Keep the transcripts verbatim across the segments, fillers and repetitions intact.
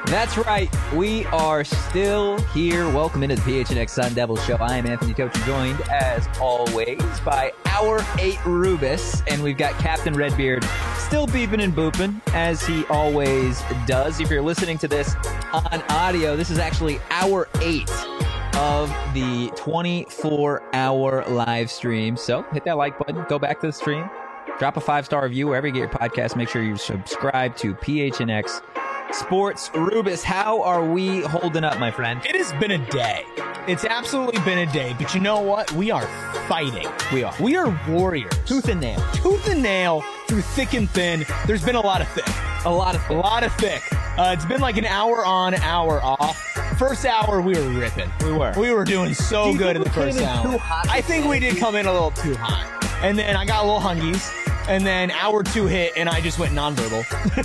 That's right. We are still here. Welcome into the P H N X Sun Devils Show. I am Anthony Tochi, joined as always by our eight Rubus, and we've got Captain Redbeard still beeping and booping as he always does. If you're listening to this on audio, this is actually hour eight of the twenty-four hour live stream. So hit that like button, go back to the stream, drop a five-star review wherever you get your podcast. Make sure you subscribe to P H N X Sports. Rubus, how are we holding up, my friend? It has been a day. It's absolutely been a day, but you know what? We are fighting. We are. We are warriors. Tooth and nail. Tooth and nail through thick and thin. There's been a lot of thick. A lot of thick. A lot of thick. Uh, it's been like an hour on, hour off. First hour, we were ripping. We were. We were doing so good in the first in hour. Too hot I think we did come in a little too hot. And then I got a little hungies. And then hour two hit, and I just went nonverbal.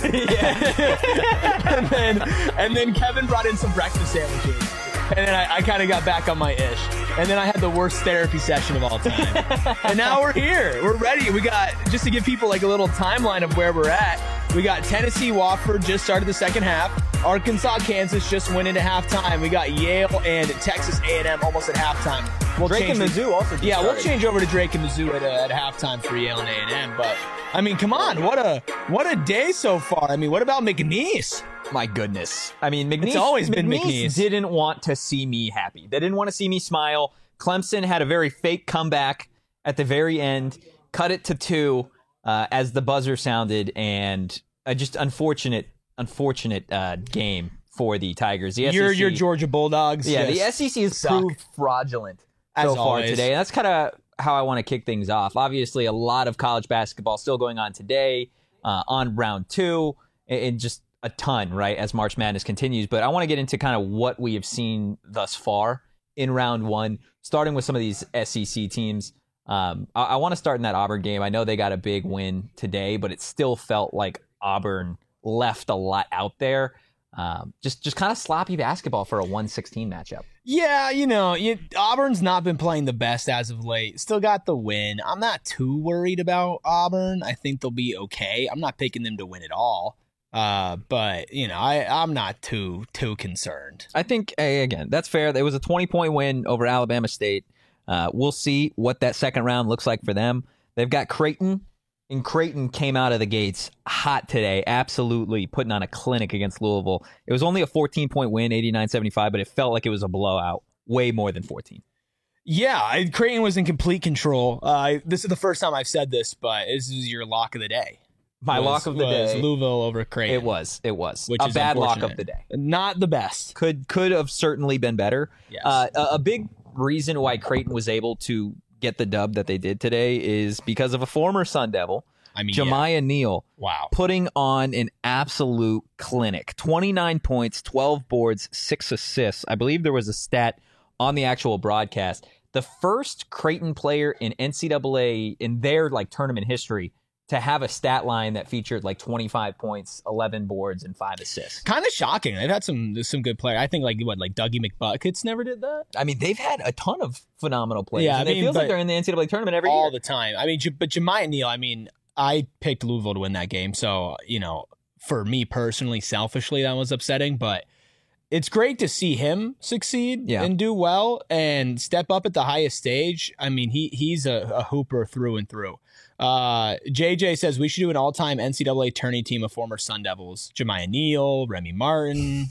yeah. and then and then Kevin brought in some breakfast sandwiches. And then I, I kind of got back on my ish. And then I had the worst therapy session of all time. And now we're here. We're ready. We got, just to give people like a little timeline of where we're at, we got Tennessee, Wofford just started the second half. Arkansas, Kansas just went into halftime. We got Yale and Texas A and M almost at halftime. We'll Drake and Mizzou also just Yeah, started. we'll change over to Drake and Mizzou at, uh, at halftime for Yale and A and M. But, I mean, come on. What a what a day so far. I mean, what about McNeese? My goodness. I mean, McNeese, It's always been McNeese McNeese. didn't want to see me happy. They didn't want to see me smile. Clemson had a very fake comeback at the very end, cut it to two uh, as the buzzer sounded, and a just unfortunate, unfortunate uh, game for the Tigers. The Your, S E C, your Georgia Bulldogs. yeah, the just S E C has suck. proved fraudulent As so far always. today. And that's kind of how I want to kick things off. Obviously, a lot of college basketball still going on today uh, on round two, and, and just a ton, right, as March Madness continues. But I want to get into kind of what we have seen thus far in round one, starting with some of these S E C teams. Um, I, I want to start in that Auburn game. I know they got a big win today, but it still felt like Auburn left a lot out there. Um, just just kind of sloppy basketball for a one sixteen matchup. Yeah, you know, you, Auburn's not been playing the best as of late. Still got the win. I'm not too worried about Auburn. I think they'll be okay. I'm not picking them to win at all. Uh, but, you know, I, I'm not too too concerned. I think, hey, again, that's fair. It was a twenty-point win over Alabama State. Uh, we'll see what that second round looks like for them. They've got Creighton, and Creighton came out of the gates hot today, absolutely putting on a clinic against Louisville. It was only a fourteen-point win, eighty-nine seventy-five, but it felt like it was a blowout, way more than fourteen. Yeah, I, Creighton was in complete control. Uh, this is the first time I've said this, but this is your lock of the day. My was, lock of the was day. Louisville over Creighton. It was. It was. Which a is bad lock unfortunate. of the day. Not the best. Could could have certainly been better. Yes. Uh, a, a big reason why Creighton was able to get the dub that they did today is because of a former Sun Devil, I mean, Jemiah yeah. Neal, Wow. putting on an absolute clinic. twenty-nine points, twelve boards, six assists. I believe there was a stat on the actual broadcast. The first Creighton player in N C double A in their like tournament history to have a stat line that featured like twenty-five points, eleven boards, and five assists. Kind of shocking. They've had some some good players. I think like what like Dougie McBuckets never did that. I mean, they've had a ton of phenomenal players. Yeah, I and mean, it feels but like they're in the N C double A tournament every all year. the time. I mean, J- but Jemiah Neal. I mean, I picked Louisville to win that game, so you know, for me personally, selfishly, that was upsetting. But it's great to see him succeed Yeah. and do well and step up at the highest stage. I mean, he he's a, a hooper through and through. Uh, J J says we should do an all-time N C double A tourney team of former Sun Devils: Jemiah Neal, Remy Martin,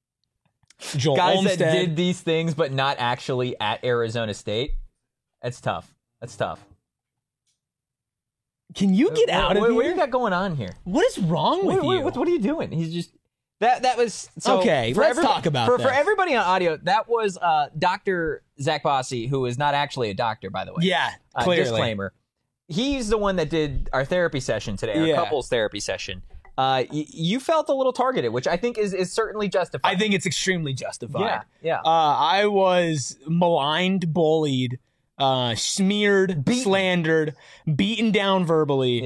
Joel Guys Olmstead. that did these things, but not actually at Arizona State. That's tough. That's tough. Can you get What- out of what, here? What do you got going on here? What is wrong with What, what, you? what, what are you doing? He's just that. That was so Okay, for let's everybo- talk about for this. for everybody on audio. That was uh, Doctor Zach Bossy, who is not actually a doctor, by the way. Yeah, Uh, clearly. disclaimer. He's the one that did our therapy session today, our Yeah. couples therapy session. Uh, y- you felt a little targeted, which I think is, is certainly justified. I think it's extremely justified. Yeah, yeah. Uh, I was maligned, bullied, uh, smeared, Beaten. slandered, beaten down verbally. Yeah.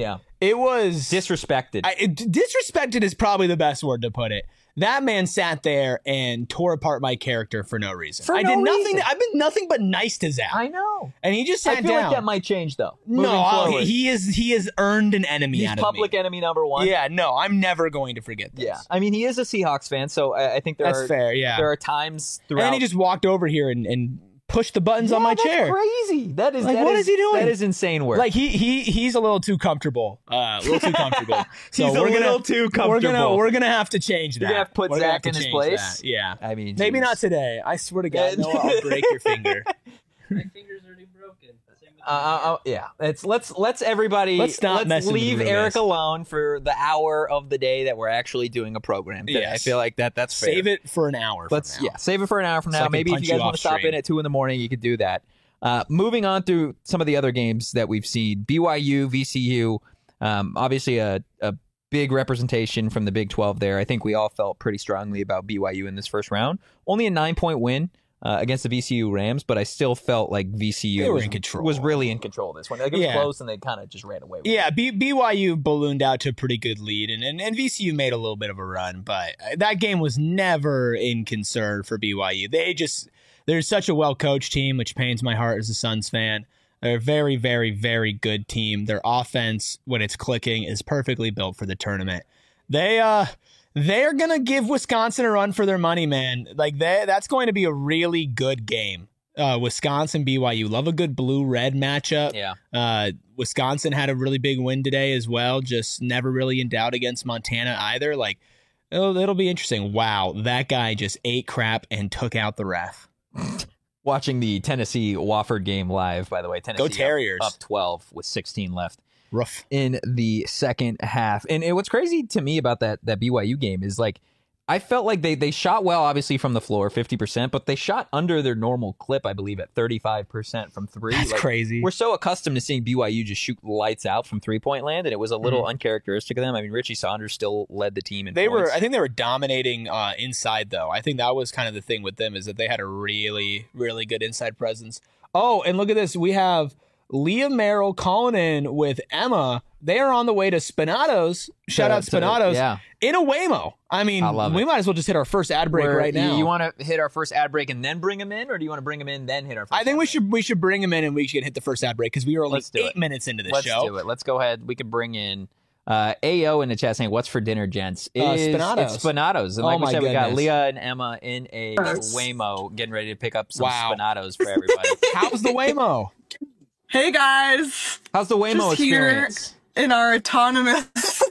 It was disrespected. I, it, disrespected is probably the best word to put it. That man sat there and tore apart my character for no reason. For I no did nothing. reason. I've been nothing but nice to Zach. I know. And he just sat I feel down. like that might change though. moving No, forward. he is. He has earned an enemy He's out public of me. enemy number one. Yeah, no, I'm never going to forget this. Yeah. I mean, he is a Seahawks fan, so I, I think there That's are fair. Yeah, there are times throughout. and he just walked over here and, and pushed the buttons yeah, on my that's chair. Crazy. That is Like, that what is, is he doing? That is insane work. Like he he he's a little too comfortable. Uh, a little too comfortable. So He's a we're gonna, little too comfortable. We're gonna we're gonna have to change that. You're gonna have to put We're gonna Zach have in to his change place? that. Yeah. I mean, Maybe geez. not today. I swear to God, Yeah. no, I'll break your finger. My finger's already broken. Same with Uh, uh, uh, yeah, it's let's let's everybody Let's stop messing with leave Rubens. Eric alone for the hour of the day that we're actually doing a program today. Yes. I feel like that that's fair. Save it for an hour. From Let's now. yeah, save it for an hour from So I now. can Maybe if punch you guys you want to off stop stream. in at two in the morning, you could do that. Uh, moving on through some of the other games that we've seen, B Y U, V C U, um, obviously a, a big representation from the Big twelve there. I think we all felt pretty strongly about B Y U in this first round. Only a nine-point win uh, against the V C U Rams, but I still felt like V C U They were was, in control. was really in control of this one. Like, it was Yeah. close, and they kind of just ran away with it. Yeah, B- BYU ballooned out to a pretty good lead, and, and, and V C U made a little bit of a run, but that game was never in concern for B Y U. They just, they're such a well-coached team, which pains my heart as a Suns fan. They're a very, very, very good team. Their offense, when it's clicking, is perfectly built for the tournament. They, uh, they're gonna give Wisconsin a run for their money, man. Like they, that's going to be a really good game. Uh, Wisconsin B Y U, love a good blue-red matchup. Yeah. Uh, Wisconsin had a really big win today as well. Just never really in doubt against Montana either. Like it'll, it'll be interesting. Wow, that guy just ate crap and took out the ref. Watching the Tennessee Wofford game live, by the way. Tennessee Go Terriers. Up, up twelve with sixteen left Rough. in the second half. And, and what's crazy to me about that that B Y U game is like I felt like they they shot well, obviously from the floor, fifty percent, but they shot under their normal clip, I believe, at thirty-five percent from three. That's Like, crazy. We're so accustomed to seeing B Y U just shoot lights out from three point land, and it was a little Mhm. uncharacteristic of them. I mean, Richie Saunders still led the team in They points. were, I think they were dominating uh, inside though. I think that was kind of the thing with them is that they had a really, really good inside presence. Oh, and look at this. We have Leah Merrill calling in with Emma. They are on the way to Spinatos. Shout To- out to- Spinatos yeah. in a Waymo. I mean, I love we it. might as well just hit our first ad break Where right you- now. You, want to hit our first ad break and then bring him in, or do you want to bring him in then hit our first? I think ad we break? should we should bring him in and we should hit the first ad break because we are only Let's do eight it. minutes into this Let's show. do it. Let's go ahead. We could bring in uh, A O in the chat saying, "What's for dinner, gents?" It Uh, is- Spinatos. It's Spinatos. And Oh like we my said, we got goodness. Leah and Emma in a Yes. Waymo, getting ready to pick up some Wow. Spinatos for everybody. How's the Waymo? Hey guys, How's the Waymo Just here. experience? in our autonomous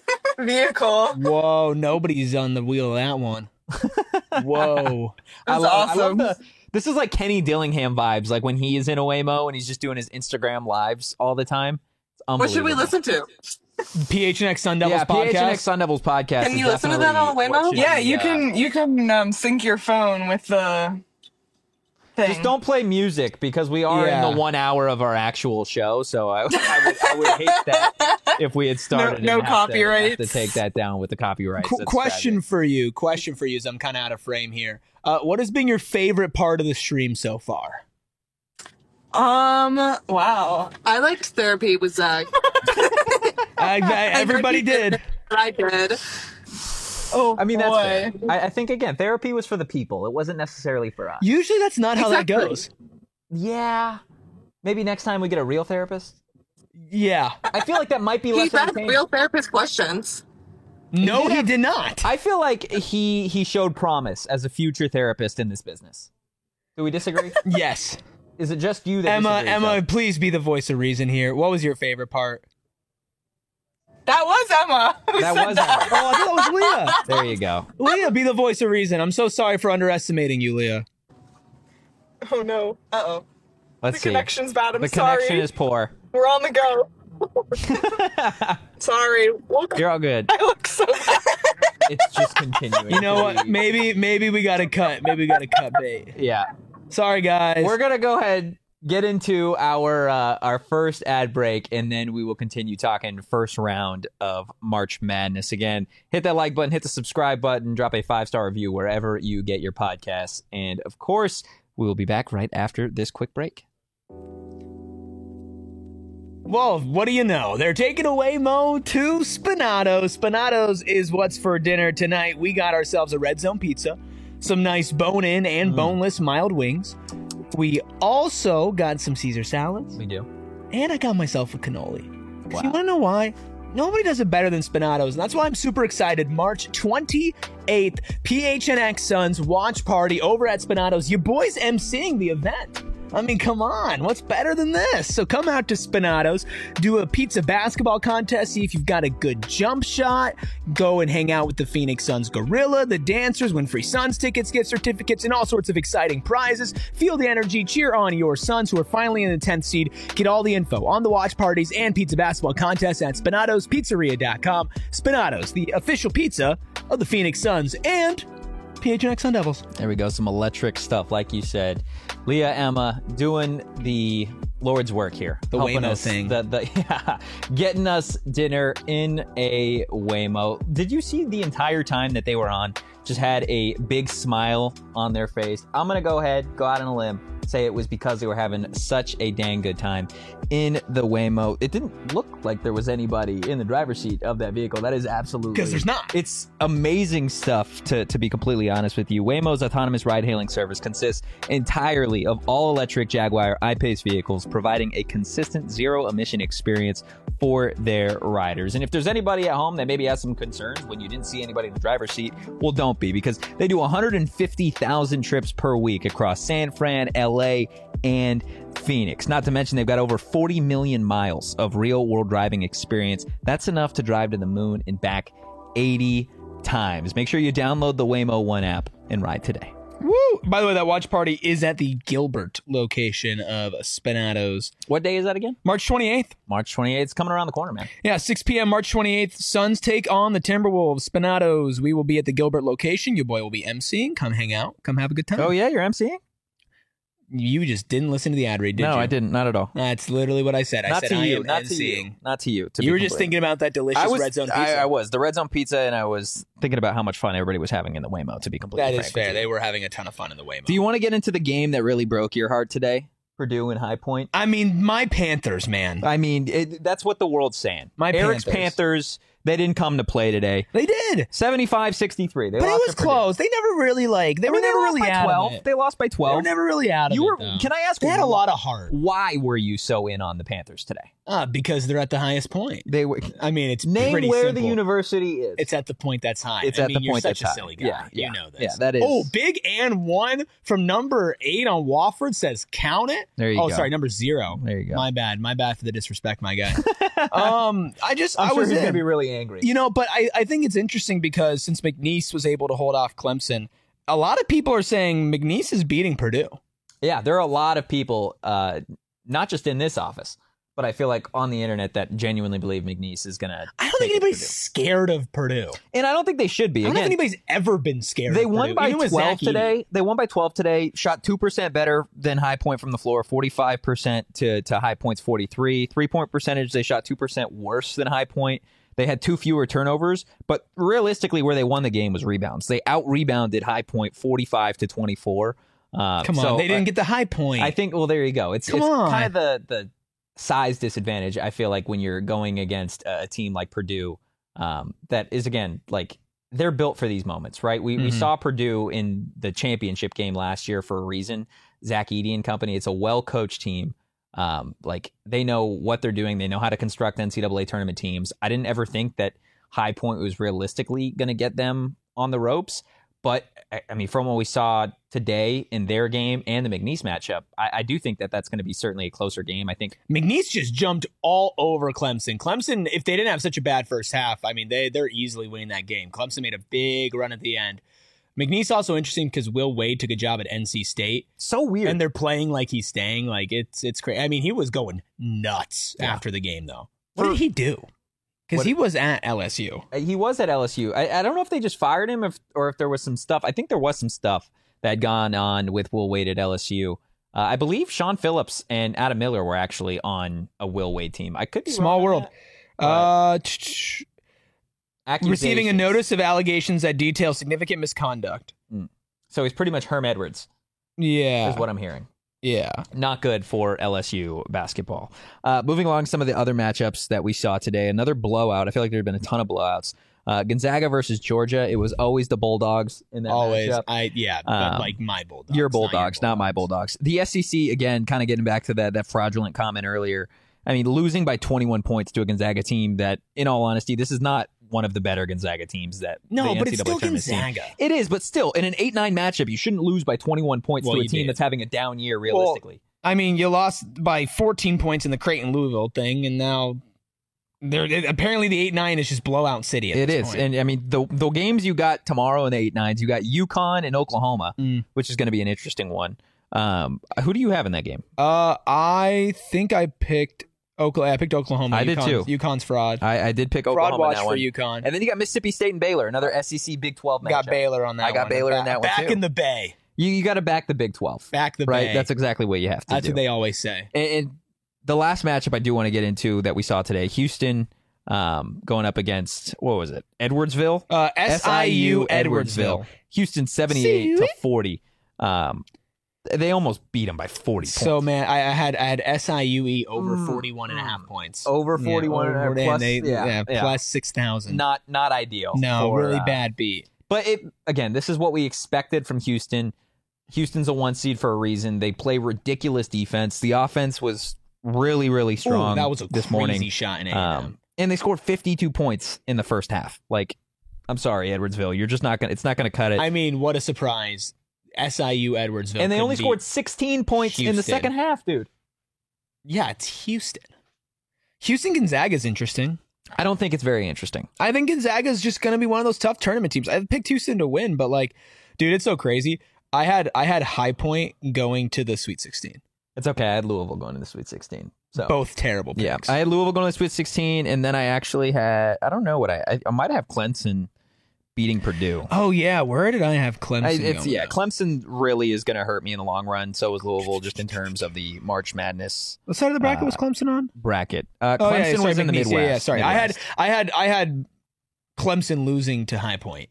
vehicle. Whoa, nobody's on the wheel of that one. Whoa. I That's love, I love awesome. the. This is like Kenny Dillingham vibes, like when he is in a Waymo and he's just doing his Instagram lives all the time. It's What should we unbelievable. listen to? P H N X Sun Devils Yeah, podcast. P H N X Sun Devils podcast. Can is you listen to that on the definitely what Waymo? should Yeah, be, you uh, can. You can um, sync your phone with the thing. Just don't play music because we are Yeah. in the one hour of our actual show. So I, I, would, I would hate that if we had started. No- and no have to- copyrights. have To take that down with the copyrights. Qu- That's question tragic. for you. Question for you as I'm kind of out of frame here. Uh, what has been your favorite part of the stream so far? Um. Wow. I liked therapy with Zach. I, I, everybody I know you did. I did. Oh, I mean, that's boy. fair. I, I think again, therapy was for the people. It wasn't necessarily for us. Usually that's not how Exactly. that goes. Yeah. Maybe next time we get a real therapist. Yeah. I feel like that might be He less asked entertaining. real therapist questions. No, did he have- did not. I feel like he he showed promise as a future therapist in this business. Do we disagree? Yes. Is it just you that Emma, disagrees, Emma, though? please be the voice of reason here. What was your favorite part? That was Emma. who That said was Oh, Emma. I thought that was Leah. There you go. Leah, be the voice of reason. I'm so sorry for underestimating you, Leah. Oh no. Uh oh. Let's The see. connection's bad. I'm The sorry. connection is poor. We're on the go. Sorry. We'll- You're all good. I look so bad. It's just continuing. You know to what? be- Maybe, maybe we got to cut. Maybe we got to cut bait. Yeah. Sorry, guys. We're gonna go ahead get into our uh, our first ad break, and then we will continue talking first round of March Madness. Again, hit that like button, hit the subscribe button, drop a five star review wherever you get your podcasts, and of course, we will be back right after this quick break. Well, what do you know? They're taking away Mo to Spinatos. Spinatos is what's for dinner tonight. We got ourselves a Red Zone pizza, some nice bone-in and Mm. boneless mild wings. We also got some Caesar salads, We do. and I got myself a cannoli. 'Cause Wow. You want to know why? Nobody does it better than Spinatos, and that's why I'm super excited. March twenty-eighth, P H N X Suns watch party over at Spinatos. You boys emceeing the event. I mean, come on. What's better than this? So come out to Spinatos, do a pizza basketball contest, see if you've got a good jump shot, go and hang out with the Phoenix Suns Gorilla, the dancers, win free Suns tickets, gift certificates, and all sorts of exciting prizes. Feel the energy, cheer on your Suns who are finally in the tenth seed. Get all the info on the watch parties and pizza basketball contests at spinatos pizzeria dot com. Spinatos, the official pizza of the Phoenix Suns and P H N X Sun Devils. There we go. Some electric stuff, like you said. Leah, Emma, doing the Lord's work here. The helping Waymo us, thing. The, the, yeah, getting us dinner in a Waymo. Did you see the entire time that they were on? Just had a big smile on their face. I'm going to go ahead, go out on a limb, say it was because they were having such a dang good time in the Waymo. It didn't look like there was anybody in the driver's seat of that vehicle. That is absolutely... Because there's not. It's amazing stuff, to, to be completely honest with you. Waymo's autonomous ride-hailing service consists entirely of all-electric Jaguar I-Pace vehicles, providing a consistent zero-emission experience for their riders. And if there's anybody at home that maybe has some concerns when you didn't see anybody in the driver's seat, well, don't be, because they do one hundred fifty thousand trips per week across San Fran, L A, and Phoenix. Not to mention they've got over forty million miles of real-world driving experience. That's enough to drive to the moon and back eighty times. Make sure you download the Waymo One app and ride today. Woo! By the way, that watch party is at the Gilbert location of Spinatos. What day is that again? March twenty-eighth. March twenty-eighth. It's coming around the corner, man. Yeah, six p.m. March twenty-eighth. Suns take on the Timberwolves. Spinatos. We will be at the Gilbert location. Your boy will be emceeing. Come hang out. Come have a good time. Oh, yeah? You're emceeing? You just didn't listen to the ad read, did you? No, I didn't. Not at all. That's literally what I said. I Not said to I you. am Not to you. emceeing. Not to you. To You be were just completely- thinking about that delicious I was, red zone pizza. I, I was. The red zone pizza, and I was thinking about how much fun everybody was having in the Waymo, to be completely That frank is with fair. you. They were having a ton of fun in the Waymo. Do you want to get into the game that really broke your heart today? Purdue and High Point? I mean, my Panthers, man. I mean, it, that's what the world's saying. My Eric's Panthers. Panthers, they didn't come to play today. They did. seventy-five sixty-three. They But it lost was to Purdue. close. They never really, like, they I were mean, never lost really by out twelve. of it. They lost by They twelve. were never really out of You it, were. though. Can I ask? They had a lot of heart. Why were you so in on the Panthers today? Uh, because they're at the highest point. They were. I mean, it's Name pretty where simple. the university is. It's at the point that's high. It's I at mean, the you're point such that's a high. silly guy. Yeah, yeah. You know this. Yeah, that is. Oh, big and one from number eight on Wofford says count it. There you oh, go. sorry, number zero. There you go. My bad. My bad for the disrespect, my guy. um, I just I'm I sure was he's in. gonna be really angry. You know, but I, I think it's interesting because since McNeese was able to hold off Clemson, a lot of people are saying McNeese is beating Purdue. Yeah, there are a lot of people, uh, not just in this office, but I feel like on the internet that genuinely believe McNeese is gonna. I don't think anybody's scared of Purdue. and I don't think they should be. I don't Again, think anybody's ever been scared they of won Purdue, by even with twelve Zach Edey. today. They won by twelve today. Shot two percent better than High Point from the floor. Forty-five percent to to High Point's forty-three. Three point percentage. They shot two percent worse than High Point. They had two fewer turnovers, but realistically, where they won the game was rebounds. They out rebounded High Point forty-five to twenty-four. Uh, Come on, so, they didn't uh, get the high point. I think. Well, there you go. It's, Come it's on. kind of the the size disadvantage. I feel like when you're going against a team like Purdue, um, that is again like they're built for these moments, right? We we Mhm. saw Purdue in the championship game last year for a reason. Zach Edey and company. It's a well coached team. Um, like they know what they're doing. They know how to construct N C double A tournament teams. I didn't ever think that High Point was realistically going to get them on the ropes. But, I- I mean, from what we saw today in their game and the McNeese matchup, I, I do think that that's going to be certainly a closer game. I think McNeese just jumped all over Clemson. Clemson, if they didn't have such a bad first half, I mean, they, they're easily winning that game. Clemson made a big run at the end. McNeese also interesting because Will Wade took a job at N C State, so weird. and they're playing like he's staying. Like, it's it's crazy. I mean, he was going nuts Yeah. after the game, though. What For- did he do? Because What- he was at L S U. Uh, he was at L S U. I, I don't know if they just fired him if, or if there was some stuff. I think there was some stuff that had gone on with Will Wade at L S U. Uh, I believe Sean Phillips and Adam Miller were actually on a Will Wade team. I could be Small wrong on world. that. Uh, ch- ch- receiving a Accusations. notice of allegations that detail significant misconduct. So he's pretty much Herm Edwards, Yeah. is what I'm hearing. Yeah. Not good for L S U basketball. Uh, moving along, some of the other matchups that we saw today. Another blowout. I feel like there have been a ton of blowouts. Uh, Gonzaga versus Georgia. It was always the Bulldogs in that Always. matchup. I yeah, but Um, like my Bulldogs. Your not Bulldogs, not, my Bulldogs. The S E C, again, kind of getting back to that that fraudulent comment earlier. I mean, losing by twenty-one points to a Gonzaga team that, in all honesty, this is not one of the better Gonzaga teams that No, the but N C double A it's still tournament's seen. Gonzaga. It is, but still, in an eight nine matchup, you shouldn't lose by twenty-one points Well, to a you team did. that's having a down year, realistically. I mean, you lost by fourteen points in the Creighton Louisville thing, and now they're apparently the eight nine is just blowout city. At It this is, point. and I mean the the games you got tomorrow in the eight nines, you got UConn and Oklahoma, Mm. which is going to be an interesting one. Um, who do you have in that game? uh, I think I picked Oklahoma. I picked Oklahoma. I did UConn's- too. UConn's fraud. I, I did pick fraud Oklahoma in watch that for one, UConn. and then you got Mississippi State and Baylor, another S E C Big twelve matchup. Got Baylor on that. I got one. Baylor in Back- that one, Back too. in the Bay. You you got to back the Big twelve, Back the right? Bay. That's exactly what you have to That's do. what they always say. and, and the last matchup I do want to get into that we saw today, Houston um, going up against what was it, Edwardsville? Uh, S I U Edwardsville. Houston seventy-eight to forty. Um, they almost beat them by forty points. So man, I, I had I had S I U E over Mm. forty-one and a half points. over Yeah, forty-one over- and and plus, they- yeah, yeah, yeah. plus six thousand. not not ideal. No, for, really uh, bad beat. But it again, this is what we expected from Houston. Houston's a one seed for a reason. They play ridiculous defense. The offense was really, really strong. Ooh, that was a this crazy morning. shot in A and Um, M. and they scored fifty-two points in the first half. Like, I'm sorry, Edwardsville, you're just not gonna. It's not gonna cut it. I mean, what a surprise! S I U Edwardsville, and they couldn't only beat- scored sixteen points in the Houston. second half, dude. Yeah, it's Houston. Houston Gonzaga is interesting. I don't think it's very interesting. I think Gonzaga is just going to be one of those tough tournament teams. I picked Houston to win, but like, dude, it's so crazy. I had I had High Point going to the Sweet sixteen. It's okay. I had Louisville going to the Sweet sixteen. So Both terrible picks. yeah, I had Louisville going to the Sweet sixteen, and then I actually had I don't know what I I, I might have Clemson beating Purdue. Oh yeah, where did I have Clemson? I, it's going, yeah, though? Clemson really is going to hurt me in the long run. So is Louisville, just in terms of the March Madness What side of the bracket uh, was Clemson on? bracket. Uh, Oh Clemson yeah, sorry, was in the McNeese. Midwest. Yeah, yeah, sorry, I had Midwest. I had I had Clemson losing to High Point.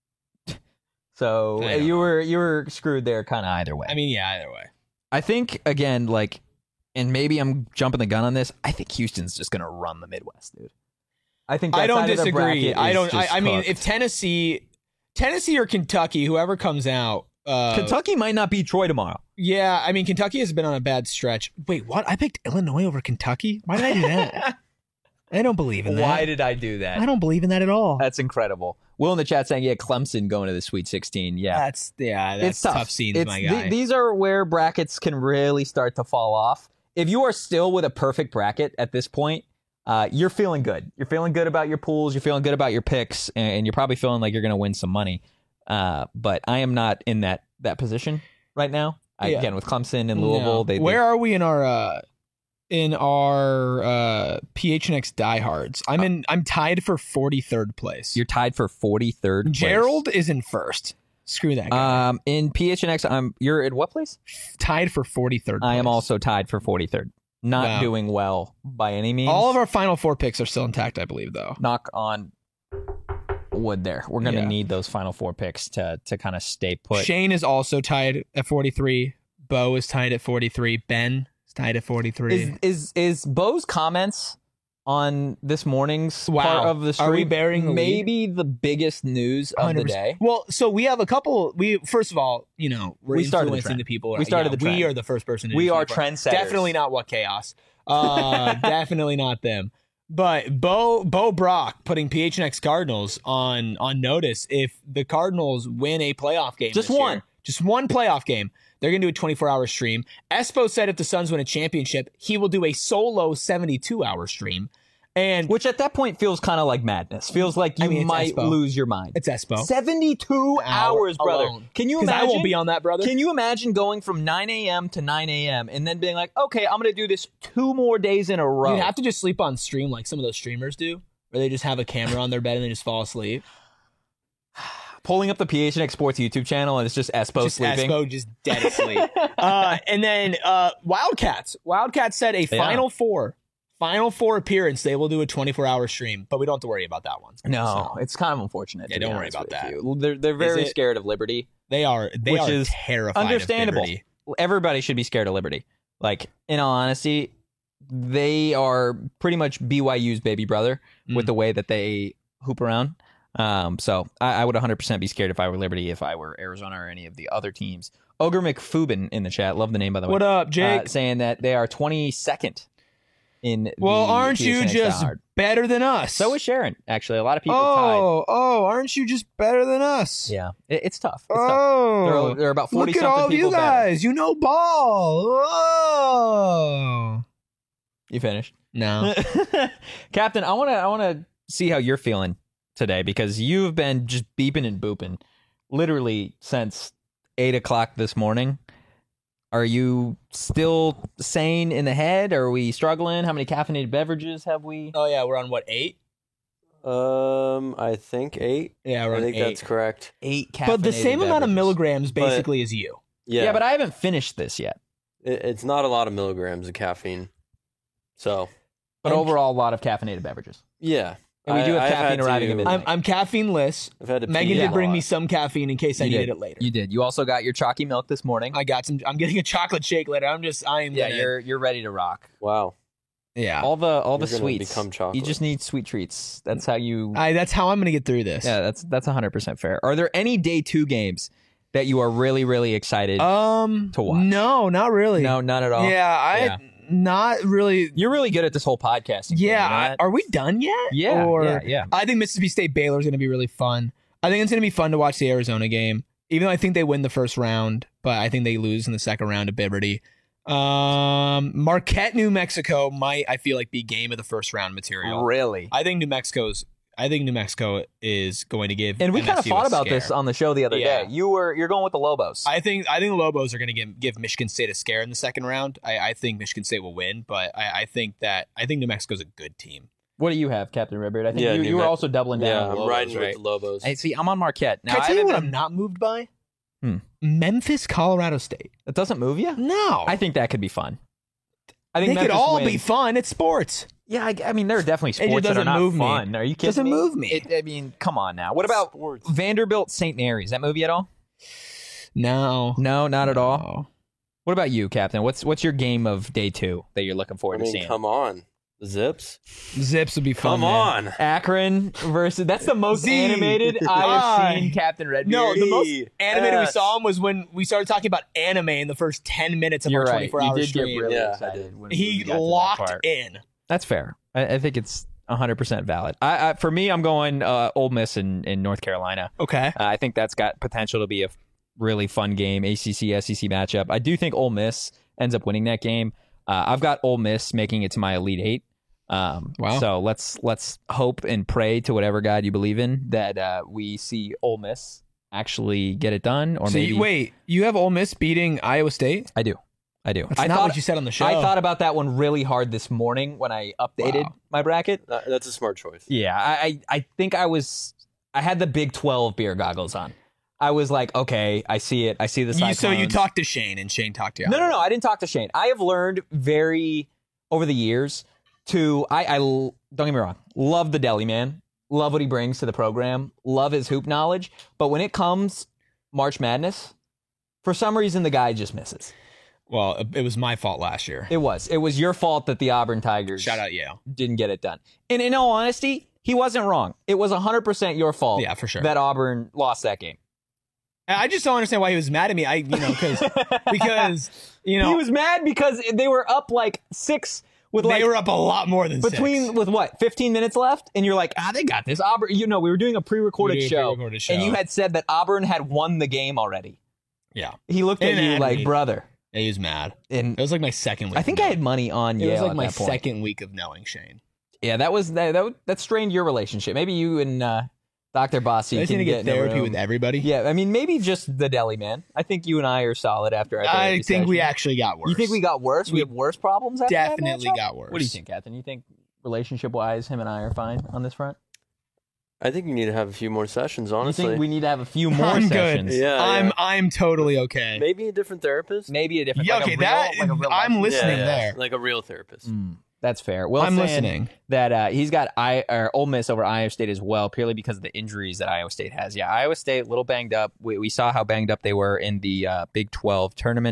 So I uh, don't you know. were you were screwed there, kind of either way. I mean, yeah, either way. I think again, like, and maybe I'm jumping the gun on this. I think Houston's just going to run the Midwest, dude. I think that I don't side of the disagree. bracket I is don't. I, just I mean, cooked. if Tennessee, Tennessee or Kentucky, whoever comes out, uh, Kentucky might not beat Troy tomorrow. Yeah, I mean, Kentucky has been on a bad stretch. Wait, what? I picked Illinois over Kentucky. Why did I do that? I don't believe in that. Why did I do that? I don't believe in that at all. That's incredible. Will in the chat saying, yeah, Clemson going to the Sweet sixteen. Yeah. That's yeah. That's it's tough. tough scenes, It's- my th- guy. these are where brackets can really start to fall off. If you are still with a perfect bracket at this point, uh, you're feeling good. You're feeling good about your pools. You're feeling good about your picks, and you're probably feeling like you're going to win some money. Uh, but I am not in that that position right now. I, Yeah. Again, with Clemson and Louisville, No. they, they Where are we in our uh, in our uh, P H N X diehards? I'm in. I'm tied for forty-third place. you're tied for forty-third. place. Gerald is in first. Screw that guy. Um, in P H N X, I'm. You're at what place? tied for forty-third. I am place. also tied for forty-third. Not Wow. doing well by any means. All of our final four picks are still intact, I believe, though. knock on wood there. We're going to Yeah. need those final four picks to to kind of stay put. Shane is also tied at forty-three. Bo is tied at forty-three. Ben is tied at forty-three. Is is is Bo's comments on this morning's Wow. part of the stream Are we bearing the lead? maybe the biggest news of one hundred the percent. day? Well, so we have a couple. We first of all, you know, we're We started the influencing trend. the people. We started Yeah, the trend. We are the first person. To We do are so. trendsetters. Definitely not what chaos. Uh, definitely not them. But Bo Bo Brock putting P H N X Cardinals on on notice. If the Cardinals win a playoff game, Just this one. year, just one playoff game, they're gonna do a twenty-four hour stream. Espo said if the Suns win a championship, he will do a solo seventy-two hour stream. And Which at that point feels kind of like madness. Feels like you I mean, it's might Espo. lose your mind. it's Espo. seventy-two Hour hours, brother. alone. Can you Because imagine? I won't be on that, brother. Can you imagine going from nine a.m. to nine a.m. and then being like, okay, I'm going to do this two more days in a row? You have to just sleep on stream like some of those streamers do, where they just have a camera on their bed and they just fall asleep. Pulling up the P H N X Sports YouTube channel and it's just Espo just sleeping. Espo just dead asleep. uh, and then uh, Wildcats. Wildcats said a Final Four, Final Four appearance. They will do a twenty-four hour stream, but we don't have to worry about that one. No, So, it's kind of unfortunate. Yeah, to be don't worry honest about with that. you. They're they're very it? scared of Liberty. they are they Which are is terrified. understandable. Of Liberty. everybody should be scared of Liberty. Like, in all honesty, they are pretty much B Y U's baby brother mm. with the way that they hoop around. Um, so I, I would one hundred percent be scared if I were Liberty, if I were Arizona or any of the other teams. Ogre McFubin in the chat. Love the name, by the way. What up, Jake? Uh, saying that they are twenty-second in Well, the aren't P H N you X just Hard. better than us? So is Sharon, actually. A lot of people oh, tied. Oh, aren't you just better than us? Yeah, it, it's tough. It's oh, tough. There are, there are about forty look at something all of people you guys. better. You know ball. Oh. You finished? No. Captain, I want to I want to see how you're feeling today, because you've been just beeping and booping literally since eight o'clock this morning. Are you still sane in the head? Are we struggling? How many caffeinated beverages have we? Oh yeah, we're on what, eight? Um, I think eight. Yeah, we're I on think eight. that's correct. Eight caffeinated But the same amount of beverages. milligrams But- basically as you. Yeah, Yeah, but I haven't finished this yet. it, it's not a lot of milligrams of caffeine. So, But I'm- overall, a lot of caffeinated beverages. yeah. And we do have I've caffeine had arriving to- at midnight. I'm I'm caffeine-less. I've had to Megan pee did a bring lot. me some caffeine in case I You needed did. it later. You did. You also got your chalky milk this morning. I got some. I'm getting a chocolate shake later. I'm just. I am. Yeah, gonna, you're you're ready to rock. Wow. Yeah. All the all the You're gonna sweets. become chocolate. You just need sweet treats. That's how you. I. That's how I'm gonna get through this. Yeah, that's that's one hundred percent fair. Are there any day two games that you are really really excited? Um. To watch. No, not really. no, none at all. Yeah, I. Yeah. Not really. You're really good at this whole podcast. Yeah. I, are we done yet? Yeah, Or yeah, yeah. I think Mississippi State Baylor is gonna be really fun. I think it's gonna be fun to watch the Arizona game, even though I think they win the first round, but I think they lose in the second round to Liberty. Um, Marquette, New Mexico might, I feel like, be game of the first round material. Really? I think New Mexico's. I think New Mexico is going to give. And we kind of M S U thought a about scare. this on the show the other Yeah. day. You were you're going with the Lobos. I think I think the Lobos are going to give give Michigan State a scare in the second round. I, I think Michigan State will win, but I, I think that I think New Mexico's a good team. What do you have, Captain Redbeard? I think Yeah, you, New you were Me- also doubling down. Yeah, on the I'm Lobos, riding right? with the Lobos. Hey, see, I'm on Marquette. Now, Can I I tell you haven't what been- I'm not moved by? Hmm. Memphis, Colorado State. That doesn't move you? No, I think that could be fun. I think they could Memphis all wins. be fun. It's sports. Yeah, I, I mean, there are definitely just sports that are doesn't not move me. fun. Are you kidding Doesn't me? move me. It, I mean, come on now. What about Sports. Vanderbilt Saint Mary's? That movie at all? No, No, not at all. No. What about you, Captain? What's what's your game of day two that you're looking I forward to mean, seeing? come on. Zips. Zips would be fun. Come man. on. Akron versus that's the most Z. animated I I- have seen Captain Redbeard. No, the most Yes. animated we saw him was when we started talking about anime in the first ten minutes of You're our right. twenty-four You hour did stream. get really Yeah, I excited. did. when we he got to that locked part. in. That's fair. I, I think it's one hundred percent valid. I, I for me, I'm going uh, Ole Miss in, in North Carolina. Okay. Uh, I think that's got potential to be a really fun game, A C C S E C matchup. I do think Ole Miss ends up winning that game. Uh, I've got Ole Miss making it to my Elite Eight. Um, Wow. So let's let's hope and pray to whatever God you believe in that uh, we see Ole Miss actually get it done, or So maybe you, wait, you have Ole Miss beating Iowa State? I do, I do. That's I not thought what you said on the show. I thought about that one really hard this morning when I updated Wow. my bracket. That- that's a smart choice. Yeah, I, I I think I was I had the Big twelve beer goggles on. I was like, okay, I see it. I see the You, Cyclones. so you talked to Shane, and Shane talked to you. No, no, no. I didn't talk to Shane. I have learned very over the years to I, I l- don't get me wrong, love the deli man, love what he brings to the program, love his hoop knowledge. But when it comes March Madness, for some reason the guy just misses. Well, it was my fault last year. It was it was your fault that the Auburn Tigers Shout out Yale. didn't get it done. And in all honesty, he wasn't wrong. It was one hundred percent your fault. Yeah, for sure. That Auburn lost that game. I just don't understand why he was mad at me. I, you know, because because you know He was mad because they were up like six with they like were up a lot more than between six. with what fifteen minutes left, and you're like, ah, they got this. Auburn, you know, we were doing a pre-recorded, We did a show, pre-recorded show. and you had said that Auburn had won the game already. Yeah, He looked at And you mad like, at me. brother, yeah, he was mad. and It was like my second week. I think of I had money on knowing- It Yale was like at my that point. second week of knowing Shane. Yeah, that was that that, that strained your relationship. Maybe you and uh, Doctor Bossy I just can need to get get in a therapy room. with everybody. Yeah, I mean, maybe just the deli man. I think you and I are solid after our I therapy think we session. actually got worse. You think we got worse? We, We have worse problems after that definitely matchup? got worse. What do you think, Captain? You think relationship-wise, him and I are fine on this front? I think you need to have a few more sessions, honestly. You think we need to have a few more I'm sessions? good. Yeah, I'm yeah. I'm totally okay. Maybe a different therapist? Maybe a different. Yeah, like a okay, real- that like a real I'm life- listening Yeah, there. Like a real therapist. Mm, that's fair. Well, I'm saying listening. that uh, he's got I or Ole Miss over Iowa State as well, purely because of the injuries that Iowa State has. Yeah, Iowa State a little banged up. We, we saw how banged up they were in the uh, Big twelve tournament.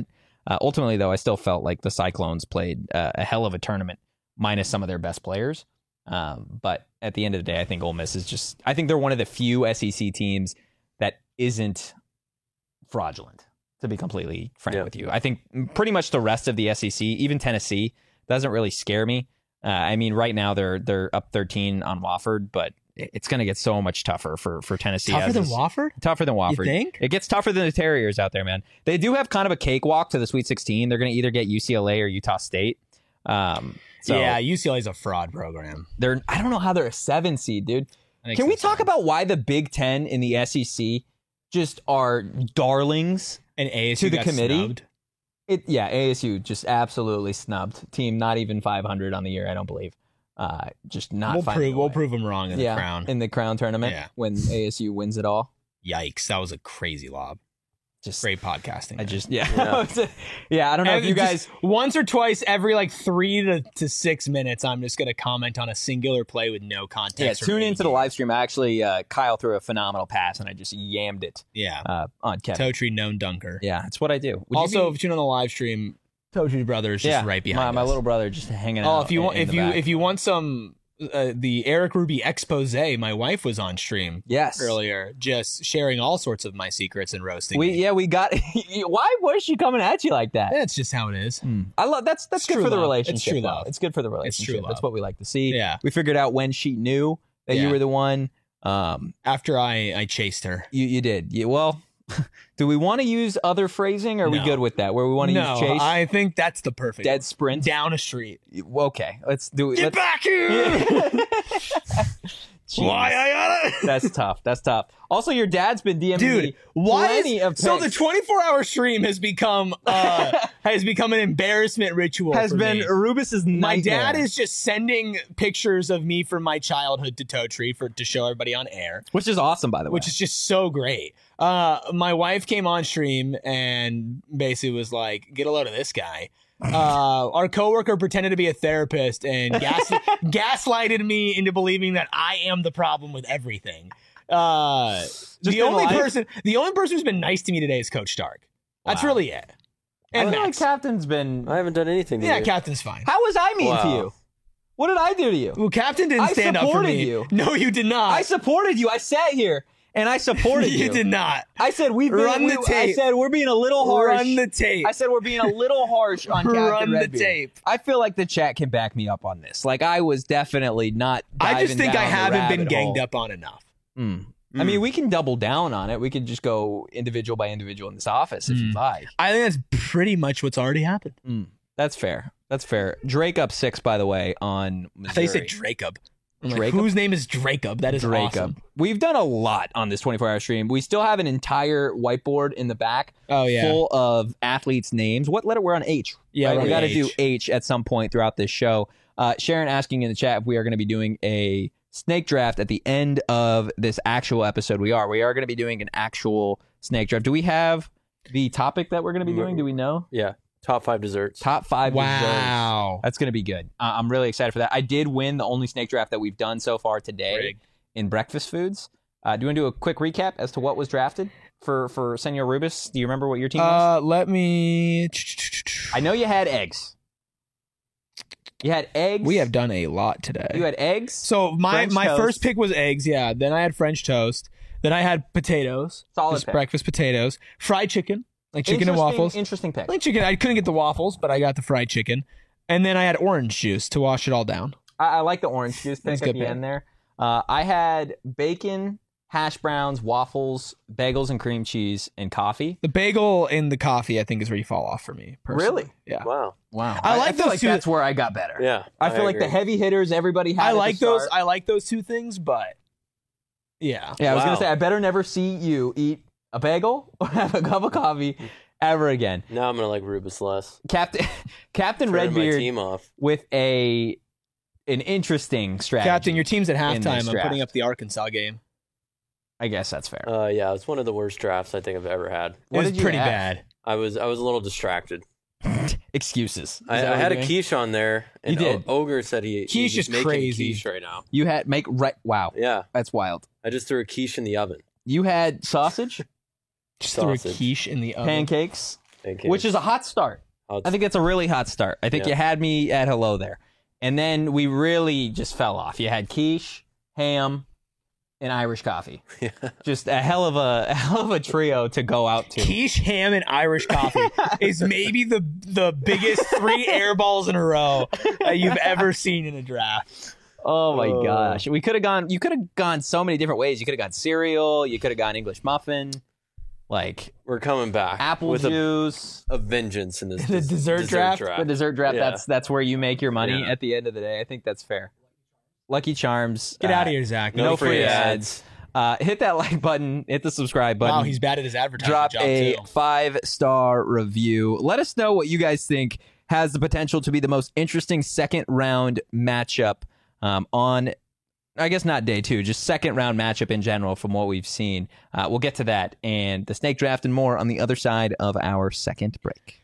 Uh, ultimately, though, I still felt like the Cyclones played uh, a hell of a tournament, minus some of their best players. Um, but at the end of the day, I think Ole Miss is just, I think they're one of the few S E C teams that isn't fraudulent, to be completely frank Yeah. with you. I think pretty much the rest of the S E C, even Tennessee, doesn't really scare me. Uh, I mean, right now they're they're up thirteen on Wofford, but it's going to get so much tougher for, for Tennessee. Tougher as than is- Wofford? Tougher than Wofford. You think? It gets tougher than the Terriers out there, man. They do have kind of a cakewalk to the Sweet sixteen. They're going to either get U C L A or Utah State. Um, so yeah, U C L A is a fraud program. they're. I don't know how they're a seven seed, dude. I think Can we so, talk too. about why the Big Ten in the S E C just are darlings? And A S U to the got committee? snubbed? It yeah, A S U just absolutely snubbed. Team not even five hundred on the year, I don't believe. Uh, just not. We'll finding prove a we'll way. prove them wrong in yeah, the crown. in the Crown tournament Yeah. when A S U wins it all. Yikes, that was a crazy lob. Just Great podcasting. I man. just yeah Yeah. yeah. I don't know if And you just guys. once or twice every like three to, to six minutes, I'm just gonna comment on a singular play with no context. Yeah, from tune any into the game. live stream. Actually, uh, Kyle threw a phenomenal pass, and I just yammed it Yeah, uh, on Kevin. Totri known dunker. Yeah, it's what I do. Would you Also, be- if you tune on the live stream, Totri's brother is just yeah, right my, behind my us. little brother just hanging Oh, out. if you in- want, in if the you back. if you want some, uh, the Eric Ruby expose, my wife was on stream yes, earlier, just sharing all sorts of my secrets and roasting. we me. yeah we got. Why was she coming at you like that? That's just how it is. I love that's that's It's good true for the love. relationship. It's true though. love. It's good for the It's true relationship. That's love. what we like to see. Yeah. we figured out when she knew that you Yeah. were the one. Um, After I I chased her. you you did. You, well, do we want to use other phrasing? Or are we No. good with that? Where we want to No, use chase, I think that's the perfect dead sprint? down a street. Okay, let's do it. Get let's, back here! Jeez. Why I gotta? That's tough. That's tough. Also, your dad's been DMing Dude, me why plenty is, of so the texts. twenty-four hour stream has become uh has become an embarrassment ritual has for been me. Rubus's My nightmare. dad is just sending pictures of me from my childhood to Totri for to show everybody on air, which is awesome, by the way. which is just so great. Uh, my wife came on stream and basically was like, "Get a load of this guy." Uh, our coworker pretended to be a therapist and gas- gaslighted me into believing that I am the problem with everything. Uh, the in only life? person, the only person who's been nice to me today is Coach Stark. That's Wow. really it. I And feel like Max. Captain's been. I haven't done anything to Yeah, you. Captain's fine. How was I mean to Wow. you? What did I do to you? Well, Captain didn't I stand up for supported me. you. No, you did not. I supported you. I sat here and I supported you. you did not. I said we've been. Run the we- I tape. said we're being a little harsh. Run the tape. I said we're being a little harsh on Captain Run the Redbeard. tape. I feel like the chat can back me up on this. Like I was definitely not. I just diving think I down the haven't been rabbit ganged hole. up on enough. Mm. I mean, we can double down on it. We could just go individual by individual in this office if Mm. you'd like. I think that's pretty much what's already happened. Mm. That's fair. That's fair. Drake up six, by the way, on Missouri. I thought you said Dracob. I'm like, Dracob? whose name is Dracob? That is Drake awesome. up. We've done a lot on this twenty-four hour stream. We still have an entire whiteboard in the back Oh yeah. full of athletes' names. What letter? We're on H. Yeah, right? we're we on got to do H. H at some point throughout this show. Uh, Sharon asking in the chat if we are going to be doing a snake draft at the end of this actual episode. We are. We are going to be doing an actual snake draft. Do we have the topic that we're going to be doing? Do we know? Yeah. Top five desserts. Top five desserts. Wow. That's going to be good. Uh, I'm really excited for that. I did win the only snake draft that we've done so far today Brig. in breakfast foods. Uh, do you want to do a quick recap as to what was drafted for, for Senor Rubus? Do you remember what your team was? Uh, let me. I know you had eggs. You had eggs. We have done a lot today. You had eggs. So my French my toast. first pick was eggs. Yeah. Then I had French toast. Then I had potatoes. Solid Just pick. breakfast potatoes. Fried chicken, like chicken and Interesting- waffles. Interesting pick. Like chicken. I couldn't get the waffles, but I got the fried chicken. And then I had orange juice to wash it all down. I, I like the orange juice That's pick at good the pick. end there. Uh, I had bacon, hash browns, waffles, bagels and cream cheese, and coffee. The bagel and the coffee, I think, is where you fall off for me. Personally. Really? Yeah. Wow. Wow. I like feel those like two- that's where I got better. Yeah. I feel like the agree. heavy hitters, everybody had. I at the like those. start. I like those two things, but yeah. Yeah, I was Wow. gonna say I better never see you eat a bagel or have a cup of coffee ever again. Now I'm gonna like Rubus less. Captain Captain Turning my Redbeard team off. with a an interesting strategy. Captain, your team's at in halftime. this I'm draft. putting up the Arkansas game. I guess that's fair. Uh, yeah, it's one of the worst drafts I think I've ever had. It was did you pretty have? bad. I was I was a little distracted. Excuses. Is I, that I what had a you're doing? quiche on there, and You did. O- Ogre said he Quiche he's is making crazy. quiche right now. You had make right. Wow, Yeah, that's wild. I just threw a quiche in the oven. You had sausage, Just threw a Sausage. quiche in the oven. pancakes, Thank you. which is a hot start. Hot I think that's a really hot start. I think Yeah. you had me at hello there. And then we really just fell off. You had quiche, ham, and Irish coffee. Yeah. Just a hell of a, a hell of a trio to go out to. Quiche, ham, and Irish coffee is maybe the the biggest three air balls in a row that you've ever seen in a draft. Oh my Oh. gosh. We could have gone you could have gone so many different ways. You could have gone cereal, you could have gone English muffin, like We're coming back apple with juice. a, a vengeance in this The des- dessert draft? The dessert draft, Yeah. that's that's where you make your money Yeah. at the end of the day. I think that's fair. Lucky Charms. Get uh, out of here, Zach. No, No free free ads. Uh, hit that like button, hit the subscribe button. Wow, he's bad at his advertising Drop job a too. five star review. Let us know what you guys think has the potential to be the most interesting second round matchup um, on, I guess not day two, just second round matchup in general from what we've seen. Uh, we'll get to that and the snake draft and more on the other side of our second break.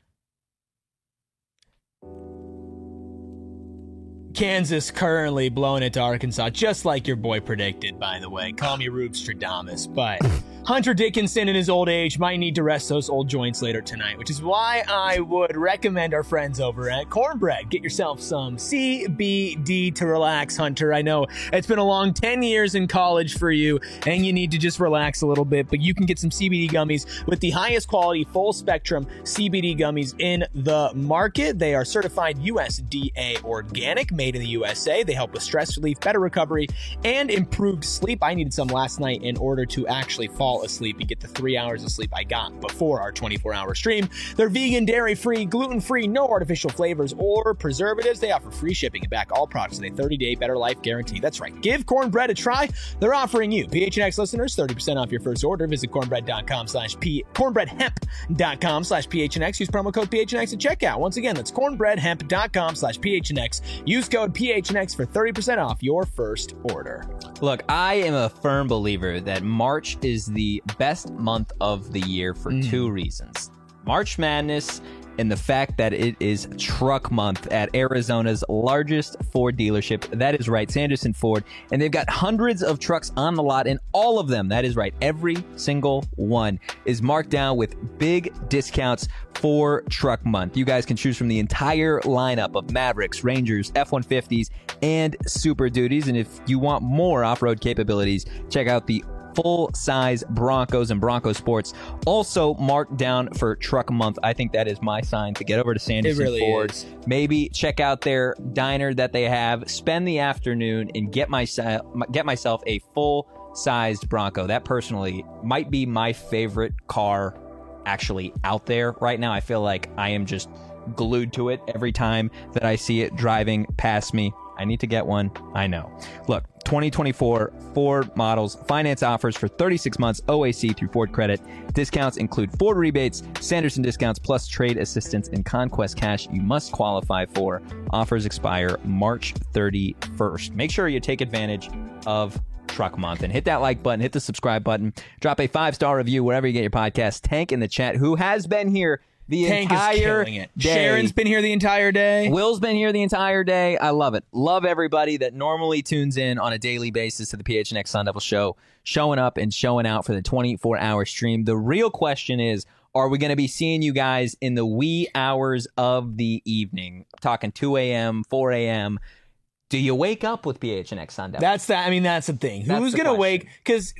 Kansas currently blowing it to Arkansas, just like your boy predicted, by the way. Call me Rube Stradamus. But Hunter Dickinson in his old age might need to rest those old joints later tonight, which is why I would recommend our friends over at Cornbread. Get yourself some C B D to relax, Hunter. I know it's been a long ten years in college for you, and you need to just relax a little bit, but you can get some C B D gummies with the highest quality, full spectrum C B D gummies in the market. They are certified U S D A organic, made in the U S A. They help with stress relief, better recovery, and improved sleep. I needed some last night in order to actually fall asleep and get the three hours of sleep I got before our twenty-four hour stream. They're vegan, dairy-free, gluten-free, no artificial flavors or preservatives. They offer free shipping and back all products with a thirty day better life guarantee. That's right. Give Cornbread a try. They're offering you, P H N X listeners, thirty percent off your first order. Visit cornbread.com slash P cornbreadhemp.com slash PHNX. Use promo code P H N X at checkout. Once again, that's cornbreadhemp.com slash PHNX. Use code P H N X for thirty percent off your first order. Look, I am a firm believer that March is the best month of the year for Mm. two reasons. March Madness and the fact that it is truck month at Arizona's largest Ford dealership. That is right, Sanderson Ford. And they've got hundreds of trucks on the lot, and all of them, that is right, every single one is marked down with big discounts for truck month. You guys can choose from the entire lineup of Mavericks, Rangers, F one fifties, and Super Duties. And if you want more off-road capabilities, check out the full-size Broncos and Bronco Sports, also marked down for truck month. I think that is my sign to get over to Sanderson It really Ford. is. Maybe check out their diner that they have, spend the afternoon, and get myself get myself a full-sized Bronco. That personally might be my favorite car actually out there right now. I feel like I am just glued to it every time that I see it driving past me. I need to get one. I know. Look, twenty twenty-four Ford models, finance offers for thirty-six months, O A C through Ford Credit. Discounts include Ford rebates, Sanderson discounts, plus trade assistance and Conquest cash you must qualify for. Offers expire March thirty-first. Make sure you take advantage of Truck Month and hit that like button, hit the subscribe button, drop a five-star review wherever you get your podcast. Tank in the chat, who has been here the Tank entire is killing it. day. Sharon's been here the entire day. Will's been here the entire day. I love it. Love everybody that normally tunes in on a daily basis to the P H N X Sun Devil Show, showing up and showing out for the twenty-four hour stream. The real question is, are we going to be seeing you guys in the wee hours of the evening? I'm talking two a.m., four a.m. Do you wake up with P H N X Sun Devil? That's that. I mean, that's the thing. That's Who's the gonna question. wake? Because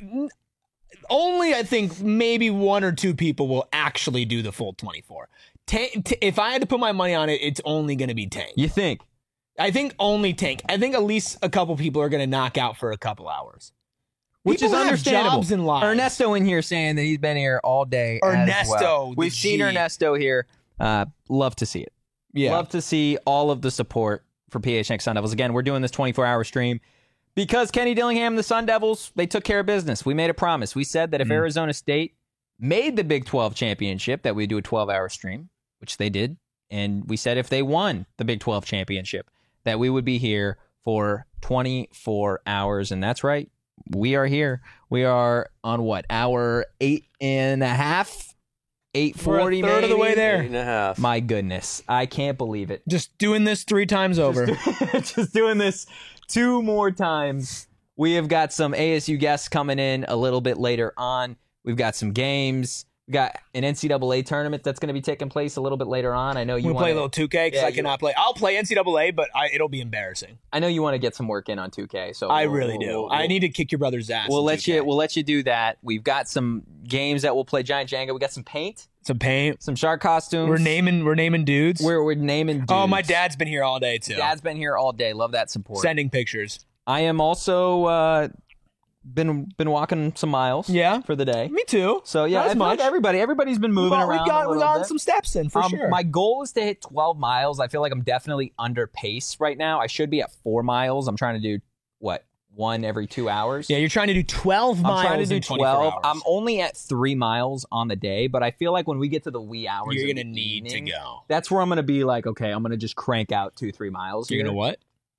only I think maybe one or two people will actually do the full twenty-four. Tank, t- if I had to put my money on it, it's only gonna be Tank. You think? I think only Tank. I think at least a couple people are gonna knock out for a couple hours. Which People is have understandable. jobs and lives. Ernesto in here saying that he's been here all day. as Ernesto, well. the We've seen G. Ernesto here. Uh, love to see it. Yeah. Love to see all of the support for P H N X Sun Devils. Again, we're doing this twenty-four hour stream because Kenny Dillingham and the Sun Devils, they took care of business. We made a promise. We said that if Mm. Arizona State made the Big twelve championship, that we'd do a twelve hour stream, which they did. And we said if they won the Big twelve championship, that we would be here for twenty-four hours. And that's right. We are here. We are on what? Hour eight and a half? eight forty, We're a third of the way maybe? there. Eight and a half. My goodness. I can't believe it. Just doing this three times over. Just doing this two more times. We have got some A S U guests coming in a little bit later on. We've got some games. We got an N C double A tournament that's going to be taking place a little bit later on. I know you We want play a little two K because Yeah, I you- cannot play. I'll play N C double A, but I, it'll be embarrassing. I know you want to get some work in on two K. So I we'll- really we'll- do. we'll- I need to kick your brother's ass. We'll in let two K. you. We'll let you do that. We've got some games that we'll play. Giant Jenga. We got some paint, some paint. some shark costumes. We're naming. We're naming dudes. We're, we're naming. Dudes. Oh, my dad's been here all day too. Dad's been here all day. Love that support. Sending pictures. I am also uh, been been walking some miles. Yeah. for the day. Me too. So yeah, Not as I feel like much. everybody everybody's been moving Well, around. We got a we little got bit. some steps in for Um, sure. My goal is to hit twelve miles. I feel like I'm definitely under pace right now. I should be at four miles. I'm trying to do what one every two hours. yeah, you're trying to do twelve miles. I'm trying to do in twenty-four twelve. hours. I'm only at three miles on the day, but I feel like when we get to the wee hours, You're of gonna the need evening, to go. That's where I'm gonna be like, okay, I'm gonna just crank out two, three miles. You're here. gonna what?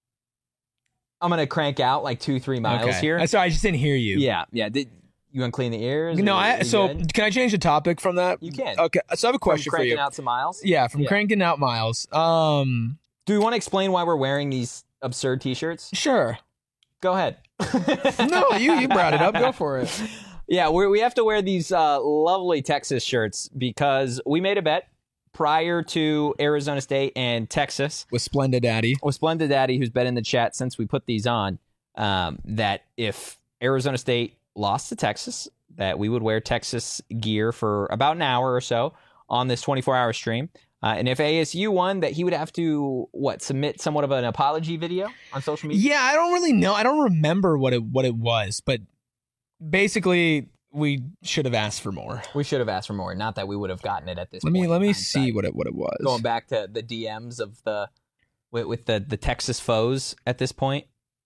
I'm gonna crank out like two, three miles okay. here. I'm sorry, I just didn't hear you. Yeah, yeah. Did you want to clean the ears? No, Are I. you So good? can I change the topic from that? You can. Okay. So I have a From question for cranking you. out some miles. Yeah, from Yeah. cranking out miles. Um, Do we want to explain why we're wearing these absurd T-shirts? sure. Go ahead. No, you you brought it up. Go for it. Yeah, we we have to wear these uh, lovely Texas shirts because we made a bet prior to Arizona State and Texas With Splendid Daddy. with Splendid Daddy, who's been in the chat since we put these on, um, that if Arizona State lost to Texas, that we would wear Texas gear for about an hour or so on this twenty-four hour stream. Uh, and if A S U won, that he would have to, what, submit somewhat of an apology video on social media? Yeah, I don't really know. I don't remember what it what it was, but basically we should have asked for more. We should have asked for more. Not that we would have gotten it at this Let point. me let in me hindsight. see what it what it was. Going back to the D Ms of the with, with the the Texas foes at this point.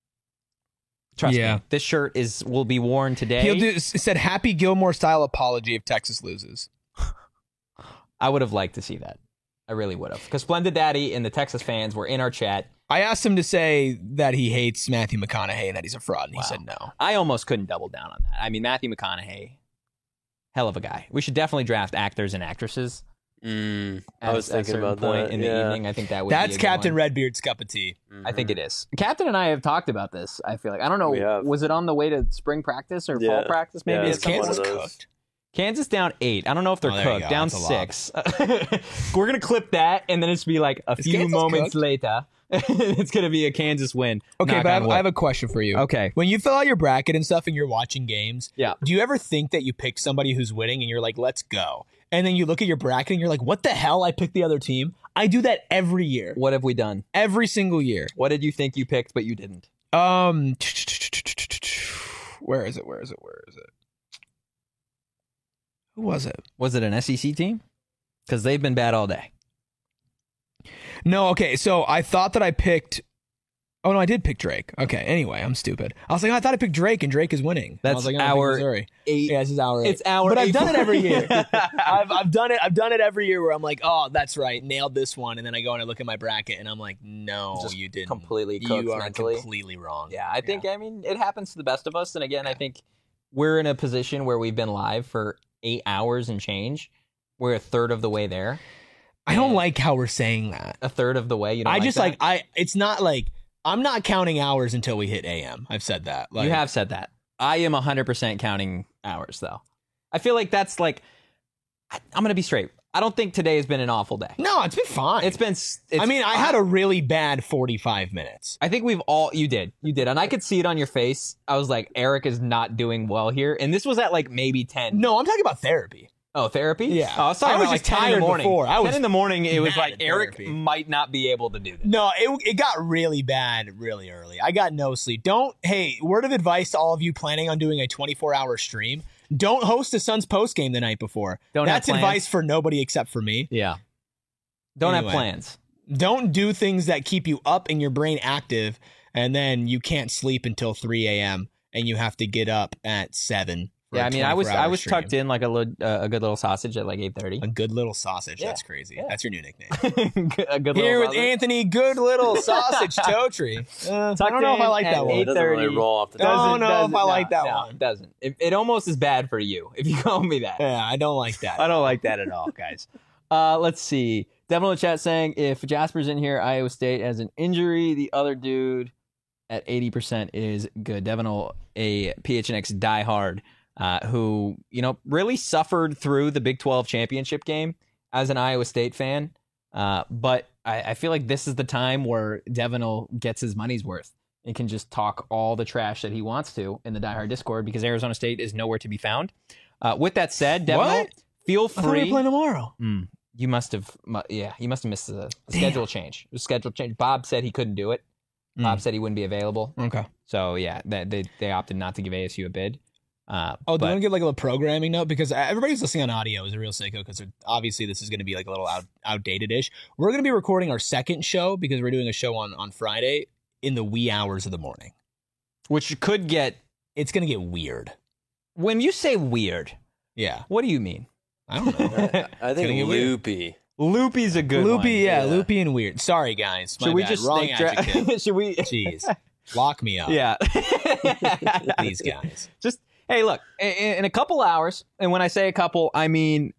Trust Yeah. me, this shirt is will be worn today. He'll do. It said Happy Gilmore style apology if Texas loses. I would have liked to see that. I really would have, because Splendid Daddy and the Texas fans were in our chat. I asked him to say that he hates Matthew McConaughey and that he's a fraud, and Wow. he said no. I almost couldn't double down on that. I mean, Matthew McConaughey, hell of a guy. We should definitely draft actors and actresses. Mm, At, I was at a thinking certain about point that. in the yeah. evening. I think that would. be That's a good Captain one. Redbeard's cup of tea. I think it is. Captain and I have talked about this. I feel like I don't know. We have. Was it on the way to spring practice or fall Yeah. practice? Maybe Yeah, at Is some one Kansas of point? those. cooked? Kansas down eight. I don't know if they're Oh, there you cooked. go. Down That's a lot. six. We're gonna clip that, and then it's be like a Is few Kansas moments cooked? later. It's gonna be a Kansas win. Okay, Knock but I on have, wood. I have a question for you. Okay. When you fill out your bracket and stuff and you're watching games, Yeah. do you ever think that you pick somebody who's winning and you're like, let's go? And then you look at your bracket and you're like, what the hell? I picked the other team. I do that every year. What have we done? Every single year. What did you think you picked, but you didn't? Um, where is it? Where is it? Where is it? Who was it? Was it an S E C team? Because they've been bad all day. No, okay. So I thought that I picked. Oh no, I did pick Drake. Okay. Anyway, I'm stupid. I was like, oh, I thought I picked Drake, and Drake is winning. And I That's was like, no, I picked our Missouri. Eight. Yeah, this is our. It's our. But I've eight done it every point- year. I've I've done it. I've done it every year where I'm like, oh, that's right, nailed this one, and then I go and I look at my bracket and I'm like, no, Just you didn't. completely cooked You are mentally. completely wrong. Yeah, I think, I mean, it happens to the best of us. And again, I think we're in a position where we've been live for eight hours and change. We're a third of the way there. I don't like how we're saying that. A third of the way. You don't I like just that? like I. It's not like I'm not counting hours until we hit A M. I've said that. Like, you have said that. I am one hundred percent counting hours, though. I feel like that's like, I, I'm going to be straight. I don't think today has been an awful day. No, it's been fine. It's been. s- It's, I mean, I had a really bad forty-five minutes. I think we've all. You did. You did. And I could see it on your face. I was like, Eric is not doing well here. And this was at like maybe ten. No, I'm talking about therapy. Oh, therapy? Yeah. Oh, I was talking I was about just like ten in the tired morning. before. I was ten in the morning, it was mad like at Eric therapy. might not be able to do this. No, it it got really bad really early. I got no sleep. Don't. Hey, word of advice to all of you planning on doing a twenty-four hour stream: don't host a Suns post game the night before. Don't have That's plans. advice for nobody except for me. Yeah. Don't Anyway. have plans. Don't do things that keep you up and your brain active, and then you can't sleep until three a m and you have to get up at seven. For Yeah, a I mean, I was twenty-four I hour was stream. tucked in like a little, uh, a good little sausage at like eight thirty. A good little sausage. Yeah. That's crazy. Yeah. That's your new nickname. A good Here little with sausage. Anthony, good little sausage Totri. Uh, I don't know if I like in that at one. It doesn't really eight thirty. roll off the Doesn't- tongue. don't know if I like that no, one. It doesn't. It, it almost is bad for you if you call me that. Yeah, I don't like that. I don't like that at all, guys. Uh, let's see. Devil in the chat saying if Jasper's in here, Iowa State has an injury. The other dude at eighty percent is good. Devin, a P H N X diehard. uh, who, you know, really suffered through the Big twelve championship game as an Iowa State fan. Uh, but I, I feel like this is the time where Devin gets his money's worth and can just talk all the trash that he wants to in the Die Hard Discord because Arizona State is nowhere to be found. Uh, with that said, Devin, feel free. I thought we were playing tomorrow. Mm, you must have, yeah, you must have missed the, the schedule change. The schedule change. Bob said he couldn't do it. Mm. Bob said he wouldn't be available. Okay. So yeah, they they, they opted not to give A S U a bid. Uh, oh, do but, you want to get like a little programming note? Because everybody's listening on audio is a real sicko because obviously this is going to be like a little out, outdated-ish. We're going to be recording our second show because we're doing a show on, on Friday in the wee hours of the morning. Which could get... It's going to get weird. When you say weird, yeah, what do you mean? I don't know. I think loopy. Loopy's a good loopy, one. yeah, yeah, loopy and weird. Sorry, guys. My Should we bad. just Wrong dra- adjective. Should we... Jeez. Lock me up. Yeah. These guys. Just... Hey, look, in, in a couple hours, and when I say a couple, I mean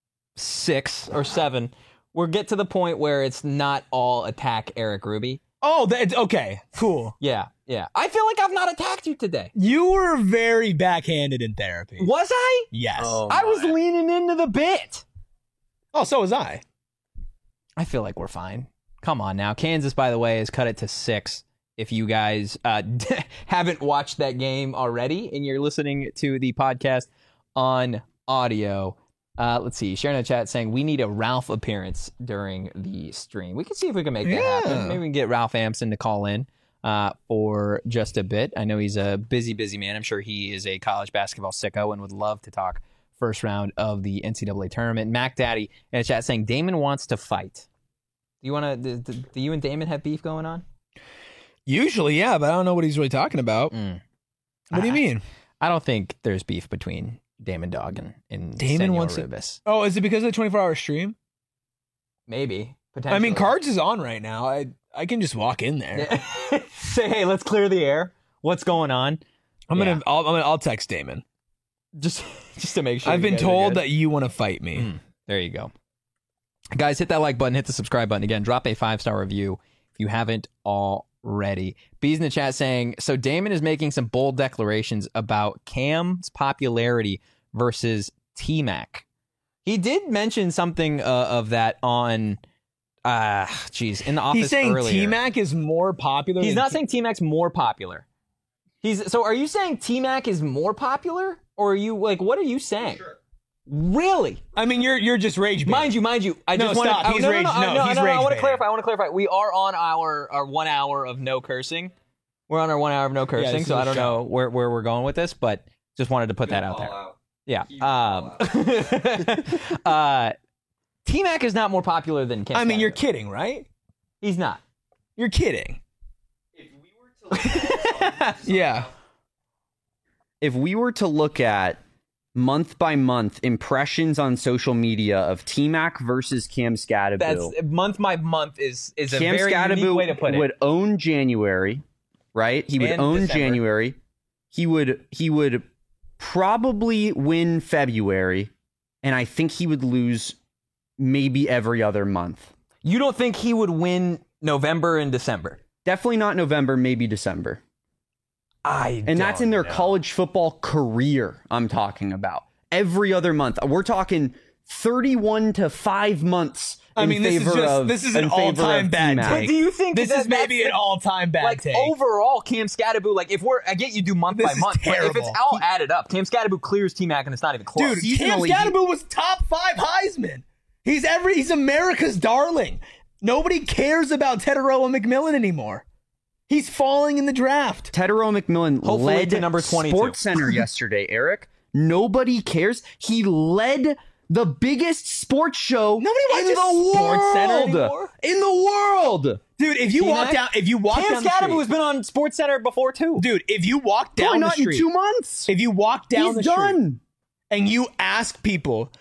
six or seven, we'll get to the point where it's not all attack Eric Ruby. Oh, that's okay. Cool. Yeah, yeah. I feel like I've not attacked you today. You were very backhanded in therapy. Was I? Yes. Oh, I was my. leaning into the bit. Oh, so was I. I feel like we're fine. Come on now. Kansas, by the way, has cut it to six. If you guys uh, haven't watched that game already and you're listening to the podcast on audio, uh, let's see. Sharing in the chat saying we need a Ralph appearance during the stream. We can see if we can make that Yeah. happen. Maybe we can get Ralph Amson to call in uh, for just a bit. I know he's a busy, busy man. I'm sure he is a college basketball sicko and would love to talk first round of the N C double A tournament. Mac Daddy in the chat saying Damon wants to fight. Do you want to? Do, do you and Damon have beef going on? Usually, yeah, but I don't know what he's really talking about. Mm. What do you I, mean? I don't think there's beef between Damon Dog and, and Damon Senor wants it- Rubis. Oh, is it because of the twenty-four hour stream? Maybe. Potentially. I mean, Cards is on right now. I I can just walk in there. Say, hey, let's clear the air. What's going on? I'm Yeah. gonna I'll, I'm gonna I'll text Damon. Just just to make sure. I've you been guys are told good. that you want to fight me. Mm, there you go. Guys, hit that like button, hit the subscribe button. Again, drop a five-star review if you haven't already. Bees in the chat saying, so Damon is making some bold declarations about Cam's popularity versus T-Mac. He did mention something uh, of that on, uh, geez, in the office He's saying earlier. T-Mac is more popular. He's than not T- saying T-Mac's more popular. He's so. Are you saying T-Mac is more popular, or are you like? What are you saying? Sure. Really? I mean, you're you're just rage baiting. Mind you, mind you. I No, just want stop. to. He's no, rage- no, no, no, no, he's no, no, I rage want to baiting. clarify. I want to clarify. We are on our our one hour of no cursing. We're on our one hour of no cursing, this is so a I don't show. know where where we're going with this, but just wanted to put that out there. Yeah. Um, uh, T-Mac is not more popular than Cam. I mean, you're Scattergood. kidding, right? He's not. You're kidding. Yeah. If we were to look at month by month impressions on social media of T-Mac versus Cam Scattergood, That's month by month is is a Cam very unique Scattergood way to put it. would own January, right? He would And own December. January. He would he would probably win February, and I think he would lose maybe every other month. You don't think he would win November and December? Definitely not November, maybe December. I And that's in their college football career I'm talking about. Every other month. We're talking thirty-one to five months in I mean, this is favor just of this is an in favor all-time of bad T-Mac. take. Do you think this that is maybe that's- an all-time bad like take? overall, Cam Scattergood, like if we're, I get you do month This by is month, but if it's terrible. all added up, Cam Scattergood clears T-Mac and it's not even close. Dude, Cam Seasonally, Scattergood was top five Heisman. He's every he's America's darling. Nobody cares about Teteroa McMillan anymore. He's falling in the draft. Teteroa McMillan Hopefully led to number twenty-two. Sports Center yesterday, Eric. Nobody cares. He led the biggest sports show Nobody in watches the Sports Center world. anymore? In the world. Dude, if you T-Mac? walk down if you walk Cam down the Scattergood street, has been on Sports Center before too. dude, if you walk Probably down the not street, in two months. if you walk down He's the street done. and you ask people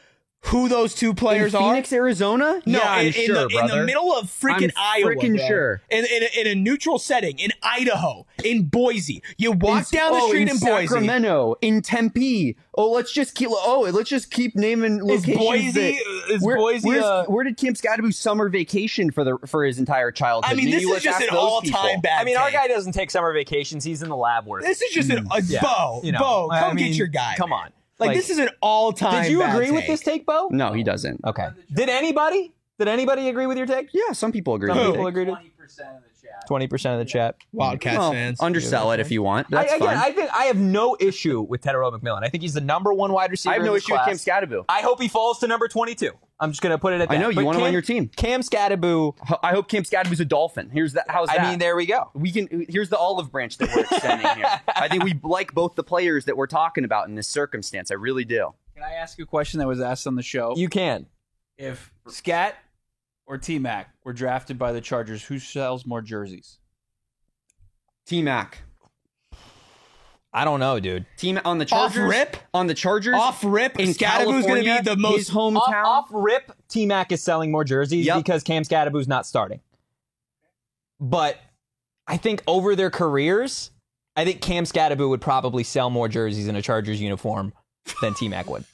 who those two players in are? Phoenix, Arizona? No, yeah, in, I'm in sure, the, in brother. the middle of freaking I'm Iowa, freaking bro. sure. In, in, a, in a neutral setting, in Idaho, in Boise. You walk In- down the oh, street in, in, Boise. Sacramento, in Tempe. Oh, let's just keep. Oh, let's just keep naming Is locations. Boise? that- Is where, Boise? where's- Uh, where did Cam Scadaboo summer vacation for the for his entire childhood? I mean, Maybe this is let's just ask an those all-time people. bad. I mean, our take. guy doesn't take summer vacations. He's in the lab work. This is just an a, Yeah. Bo. You know, Bo, I come mean, get your guy. Come man. on. Like, Like, this is an all-time. Did you bad agree with take. this take, Bo? No, he doesn't. Okay. Did anybody? Did anybody agree with your take? Yeah, some people agree. Some with people it. agreed. Twenty percent of the chat. Twenty percent of the chat. Wildcats Well, fans? undersell it if you want. That's I, again, fine. I think I have no issue with Tedero McMillan. I think he's the number one wide receiver. I have no in this issue class. with Cam Scadaboo. I hope he falls to number twenty-two. I'm just gonna put it at that. I know, you But want him on Cam- your team. Cam Scadaboo. Ho- I hope Cam Scadaboo's a Dolphin. Here's that. How's that? I mean, there we go. we can. Here's the olive branch that we're extending here. I think we like both the players that we're talking about in this circumstance. I really do. Can I ask a question that was asked on the show? You can. If Scat or T-Mac were drafted by the Chargers, who sells more jerseys? T Mac. I don't know, dude. Team on the Off Chargers. rip? On the Chargers. Off rip, in Scadaboo's going to California, be the most. his hometown. Off, off rip, T Mac is selling more jerseys Yep. because Cam Scadaboo's not starting. But I think over their careers, I think Cam Scadaboo would probably sell more jerseys in a Chargers uniform than T Mac would.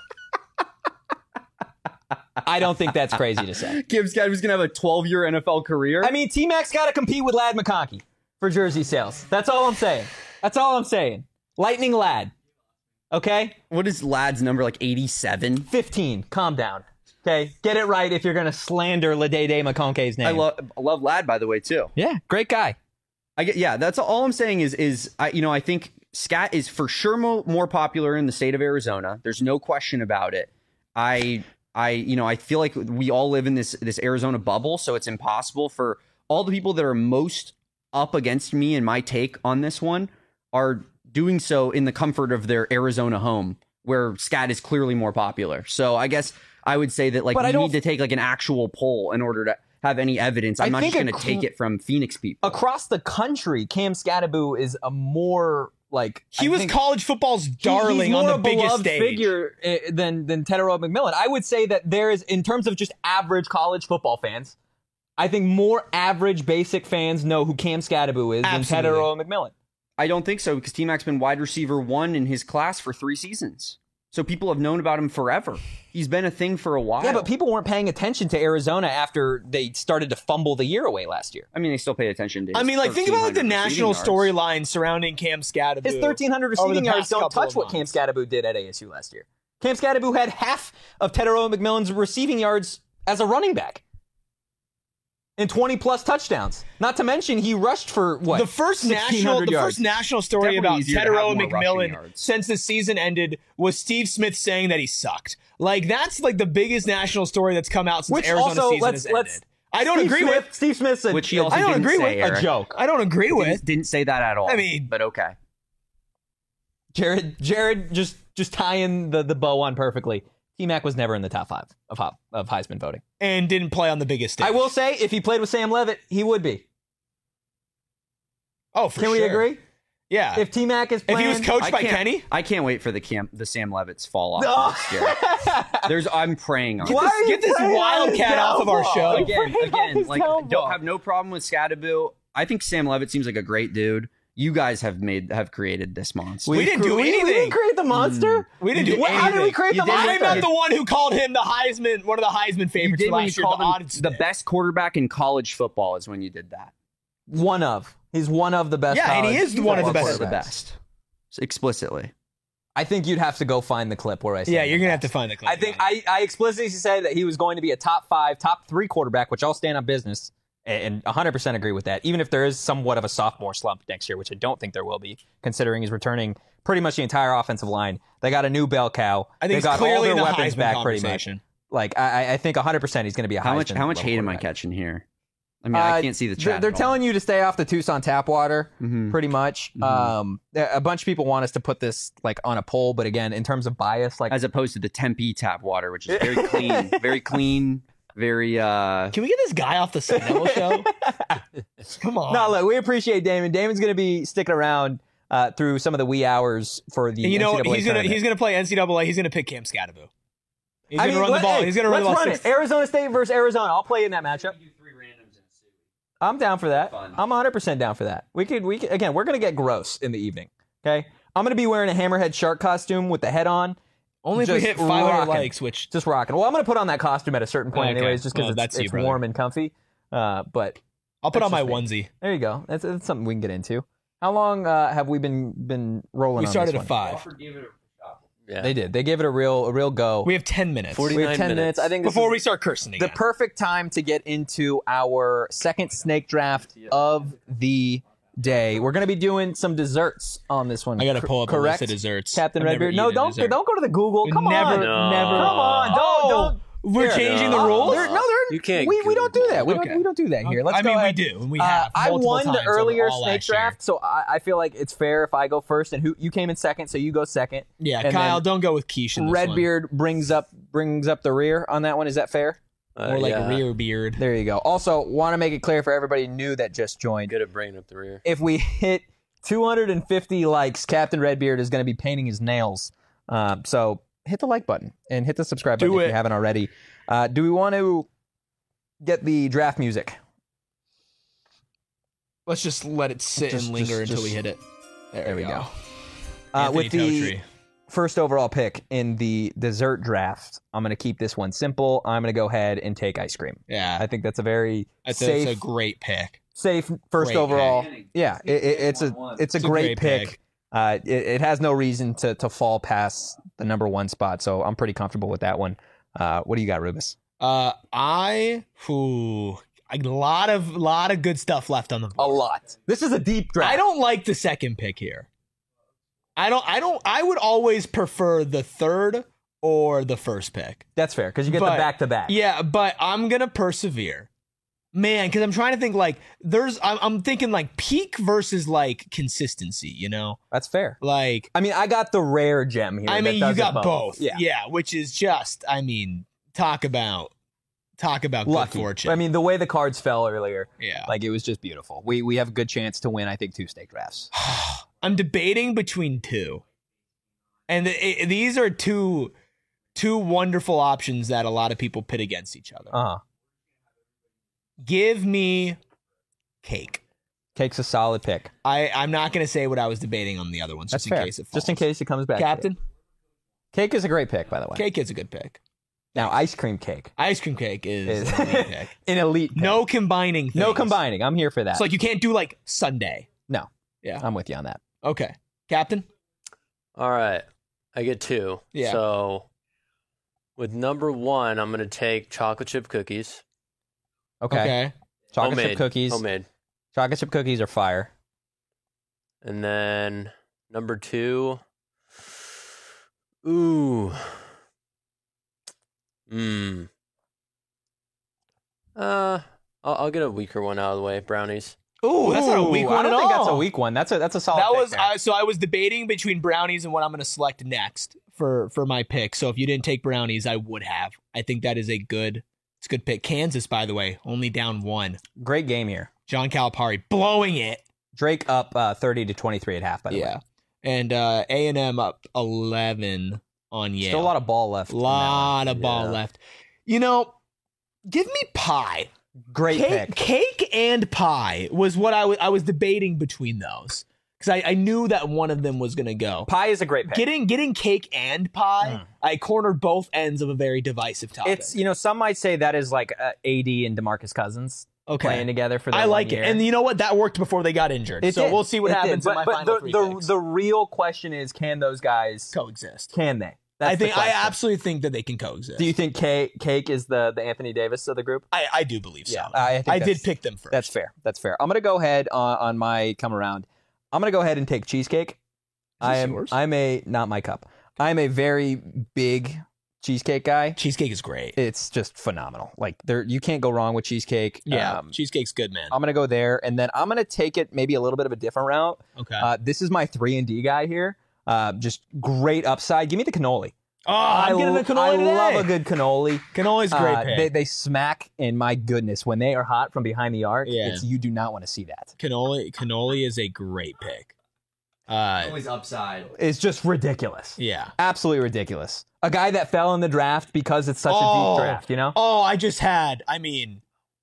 I don't think that's crazy to say. Cam Scadaboo's gonna have a twelve-year N F L career. I mean, T Mac's got to compete with Lad McConkey for jersey sales. That's all I'm saying. That's all I'm saying. Lightning Lad. Okay? what is Lad's number? Like eighty-seven. fifteen. Calm down. Okay? Get it right if you're going to slander Ladede McConkey's name. I love. I love Lad, by the way, too. Yeah, great guy. I get. Yeah, that's all I'm saying is is I you know I think Scat is for sure mo- more popular in the state of Arizona. There's no question about it. I I you know I feel like we all live in this this Arizona bubble, so it's impossible for all the people that are most up against me and my take on this one are doing so in the comfort of their Arizona home, where Scat is clearly more popular. So I guess I would say that like But I we don't- need to take like an actual poll in order to have any evidence. I'm I not think just going to a take cl- it from Phoenix people. Across the country, Cam Scadaboo is a more like He I was think- college football's he- darling he's more on the a biggest beloved stage. figure eh, than than Tedero McMillan. I would say that there is, in terms of just average college football fans, I think more average basic fans know who Cam Scadaboo is Absolutely. than Tedero McMillan. I don't think so because T-Mac's been wide receiver one in his class for three seasons. So people have known about him forever. He's been a thing for a while. Yeah, but people weren't paying attention to Arizona after they started to fumble the year away last year. I mean, they still pay attention to his I mean, like, think about like the thirteen hundred national receiving yards. storyline surrounding Cam Scadaboo. His thirteen hundred over the receiving yards past don't couple touch of what Cam months. Scadaboo did at A S U last year. Cam Scadaboo had half of Tedero McMillan's receiving yards as a running back. And twenty plus touchdowns. Not to mention he rushed for what? The first national, sixteen hundred the yards. first national story Definitely about easier to have Tedero more rushing McMillan yards. since the season ended was Steve Smith saying that he sucked. Like that's like the biggest national story that's come out since Which the Arizona also, season let's has let's. ended. I don't Steve agree Smith, with. Steve Smith's a, Which he also I don't didn't agree say, with a Eric. joke. I don't agree Didn't, with. didn't say that at all. I mean- but okay. Jared, Jared, just just tying the, the bow on perfectly. T-Mac was never in the top five of Hop- of Heisman voting. And didn't play on the biggest stage. I will say, if he played with Sam Levitt, he would be. Oh, for Can we sure. agree? Yeah. If T-Mac is If playing, he was coached I by can't- Kenny, I can't wait for the Cam, the Sam Levitt's fall off Oh. next year. There's, I'm praying on Why it. are you get this praying on wildcat his off of our downfall? show. You're Again, praying on again, his like downfall. don't have no problem with Scadaboo. I think Sam Levitt seems like a great dude. You guys have made have created this monster. We didn't do we, We anything. didn't create the monster. we didn't do What- How did we anything. create You the did monster? I'm not the one who called him the Heisman, one of the Heisman you favorites did for when you last year. called The him odds the did. best quarterback in college football is when you did that. One of. He's one of the best. Yeah, and he college is one of the football best. the quarterbacks. best. Explicitly. I think you'd have to go find the clip where I said Yeah, that. you're gonna have to find the clip. I think I, I explicitly said that he was going to be a top five, top three quarterback, which I'll stand on business and one hundred percent agree with that, even if there is somewhat of a sophomore slump next year, which I don't think there will be, considering he's returning pretty much the entire offensive line. They got a new bell cow. I think they he's got all clearly their in the weapons Heisman back pretty much. conversation. Like, I, I think one hundred percent he's going to be a How much Heisman how much level hate am I quarterback. catching here? I mean, I Uh, can't see the they're- chat. They're at all. telling you to stay off the Tucson tap water, Mhm. pretty much. Mhm. Um, there- a bunch of people want us to put this like on a poll, but again, in terms of bias, like as opposed to the Tempe tap water, which is very clean, very clean, very uh Can we get this guy off the Sun Devil show? Come on. no, look, we appreciate Damon. Damon's going to be sticking around uh, through some of the wee hours for the. And you know N C double A he's gonna tournament. he's gonna play N C double A. He's gonna pick Cam Scadaboo. He's gonna run the let- ball. hey, He's gonna run the let's ball. run it. Arizona State versus Arizona. I'll play in that matchup. I'm down for that. I'm one hundred percent down for that. We could, we could, again, we're going to get gross in the evening. Okay? I'm going to be wearing a hammerhead shark costume with the head on. Only if we Just hit five hundred rocking. likes, which Just rocking. Well, I'm going to put on that costume at a certain point Okay. anyways, just because Well, it's, that's you, it's brother. warm and comfy. Uh, but I'll put That's on my just onesie. there you go. That's, that's something we can get into. How long uh, have we been been rolling We on started this at one? five. Yeah. They did. They gave it a real a real go. We have ten minutes. forty- We have ten minutes. minutes. I think this Before is we start cursing the again. perfect time to get into our second snake draft of the day. We're going to be doing some desserts on this one. I gotta Cor- pull up correct? a list of desserts. Captain I've never Redbeard. No, eaten a don't dessert. don't go to the Google. Come never, on. No. never. Come on. Don't Oh, don't. We're Here. changing the Uh, rules. there- no, there. You can't We, we don't do that. We Okay. don't we don't do that here. Let's I go mean, we ahead. do, and we Uh, have. I multiple won the times over earlier all snake last year. draft, so I, I feel like it's fair if I go first, and who you came in second, so you go second. Yeah, And Kyle, then don't go with quiche in this one. Redbeard brings up brings up the rear on that one. Is that fair? Uh, More like yeah. rear beard. There you go. Also, want to make it clear for everybody new that just joined. Good at bringing up the rear. If we hit two hundred fifty likes, Captain Redbeard is going to be painting his nails. Um, so hit the like button and hit the subscribe Do button if it. you haven't already. Uh, do we want to get the draft music? Let's just let it sit Just- and linger just- until we just- hit it. There, There we we go. go. Uh, Anthony with the Totri. first overall pick in the dessert draft, I'm going to keep this one simple. I'm going to go ahead and take ice cream. Yeah, I think that's a very that's, a, safe, that's a great pick. safe first great overall. pick. Yeah, it, it, it's a it's a It's a great, great pick. pick. Uh, it, it has no reason to to fall past the number one spot, so I'm pretty comfortable with that one. Uh, what do you got, Rubus? Uh, I, whew, a lot of lot of good stuff left on the board. A lot. This is a deep draft. I don't like the second pick here. I don't. I don't. I would always prefer the third or the first pick. That's fair because you get But- the back to back. Yeah, but I'm gonna persevere, man. Because I'm trying to think like there's. I'm, I'm thinking like peak versus like consistency. You know, That's fair. like I mean, I got the rare gem here. I that mean, you does it got both. Yeah. yeah, which is just. I mean, talk about talk about Lucky. good fortune. I mean, the way the cards fell earlier, yeah. like it was just beautiful. We we have a good chance to win. I think two snake drafts. I'm debating between two, and it, it- these are two two wonderful options that a lot of people pit against each other. Uh huh. Give me cake. Cake's a solid pick. I I'm not going to say what I was debating on the other ones, That's just in fair. case it falls. Just in case it comes back. to you. Captain, Cake is a great pick, by the way. cake is a good pick. Now, ice cream cake Ice cream cake is is an elite pick. an elite. Pick. No combining. Things. no combining. I'm here for that. It's like you can't do like Sunday. no. Yeah. I'm with you on that. Okay, Captain. All right. I get two. Yeah. So with number one, I'm going to take chocolate chip cookies. Okay. Okay. Chocolate Homemade. chip cookies. Homemade. Chocolate chip cookies are fire. And then number two. Ooh. Mmm. Uh, I'll, I'll get a weaker one out of the way. Brownies. Ooh, that's not a weak Ooh, one I don't at think all. that's a weak one. That's a that's a solid. That pick was there. uh, so I was debating between brownies and what I'm going to select next for for my pick. So if you didn't take brownies, I would have. I think that is a good. It's a good pick. Kansas, by the way, only down one. Great game here. John Calipari blowing it. Drake up uh, thirty to twenty-three at half. By the Yeah, way, and uh, A and M up eleven on Yale. still a lot of ball left. in that one. lot of ball Yeah. left. You know, give me pie. Great Cake, pick. cake and pie was what I was. I was debating between those because I, I knew that one of them was going to go. Pie is a great pick. Getting getting cake and pie, I cornered both ends of a very divisive topic. It's you know some might say that is like uh, A D and DeMarcus Cousins okay. playing together for. Their I one like year. it, and you know what? That worked before they got injured. It so did. we'll see what It happens did. in my but, final but three the, the picks. the real question is, can those guys coexist. can they? That's I the think I question. absolutely think that they can coexist. Do you think Cake, Cake is the the Anthony Davis of the group? I, I do believe so. Yeah, I think I that's- did pick them first. That's fair. That's fair. I'm gonna go ahead on, on my come around. I'm gonna go ahead and take cheesecake. I am. yours? I'm a not my cup. I'm a very big cheesecake guy. Cheesecake is great. It's just phenomenal. Like there, you can't go wrong with cheesecake. yeah, Um, cheesecake's good, man. I'm gonna go there, and then I'm gonna take it maybe a little bit of a different route. okay. Uh, this is my three and D guy here. Uh, just great upside. Give me the cannoli. oh, I'm I getting lo- a cannoli I today. love a good cannoli. Cannoli's a great Uh, pick. they, they smack, and my goodness, when they are hot from behind the arc, Yeah. it's, you do not want to see that. Cannoli, cannoli is a great pick. Uh, Always upside. is just ridiculous. yeah. Absolutely ridiculous. A guy that fell in the draft because it's such a Oh. deep draft, you know? Oh, I just had. I mean,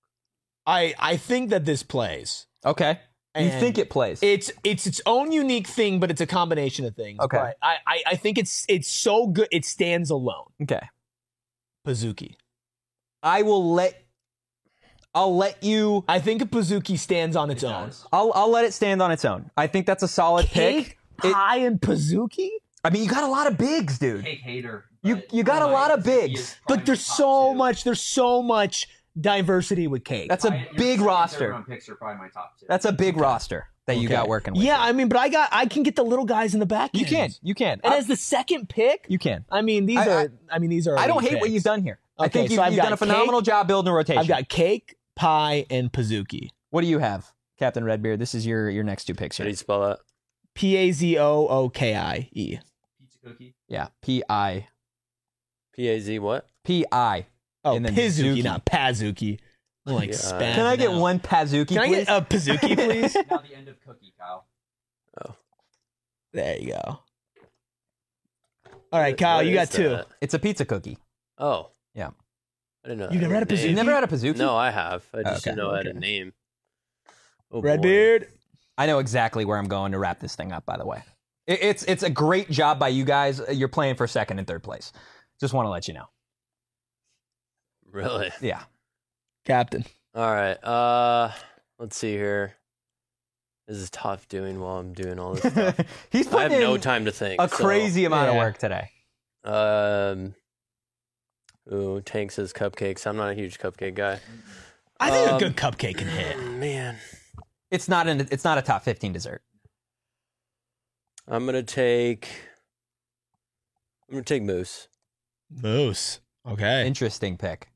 I I think that this plays. Okay. You And think it plays? It's it's its own unique thing, but it's a combination of things. Okay. But I, I I think it's it's so good it stands alone. okay. Pazuki. I will let I'll let you I think a Pazuki stands on its It own. does. I'll I'll let it stand on its own. I think that's a solid pick. It- Pie and Pazuki? I mean, you got a lot of bigs, dude. Cake hater. You- but you got a my- lot of he is bigs. probably But there's my top so two. much there's so much diversity with cake. That's a My- your big second, third roster. round picks are probably my top two. That's a big roster that you Okay. got working with. Yeah, I mean, but I got I can get the little guys in the back. You end. can. You can. And I- as the second pick, you can. I mean these I- are I, mean these are I don't elite hate what picks. you've done here. I Okay, think you've, so I've you've got done a phenomenal cake- job building a rotation. I've got cake, pie, and Pazuki. What do you have, Captain Redbeard? This is your your next two picks How here. do you spell that? P A Z O O K I E. Pizza cookie. Yeah, P I P A Z what? P I. Oh, And then Pizuki, Zuki. not Pazuki. I'm like Yeah. spazzing Can I get out. one Pazuki, Can I please? get a Pazuki, please? Now the end of cookie, Kyle. There you go. All right, What- Kyle, what you is got two. that? It's a pizza cookie. Oh. Yeah. I didn't know. You've that never had a name. Pazuki? You've never had a Pazuki? No, I have. I just Okay. didn't know I had a Okay. name. Oh, boy. Redbeard. I know exactly where I'm going to wrap this thing up, by the way. It, it's it's a great job by you guys. You're playing for second and third place. Just want to let you know. Really? Yeah. Captain. All right. Uh, let's see here. This is tough doing while I'm doing all this stuff. He's I have putting no in time to think. a so, crazy amount of yeah. work today. Um. Ooh, Tank says cupcakes. I'm not a huge cupcake guy. I think Um, a good cupcake can hit. Man, It's not an it's not a top fifteen dessert. I'm gonna take. I'm gonna take mousse. Moose. Okay. Interesting pick.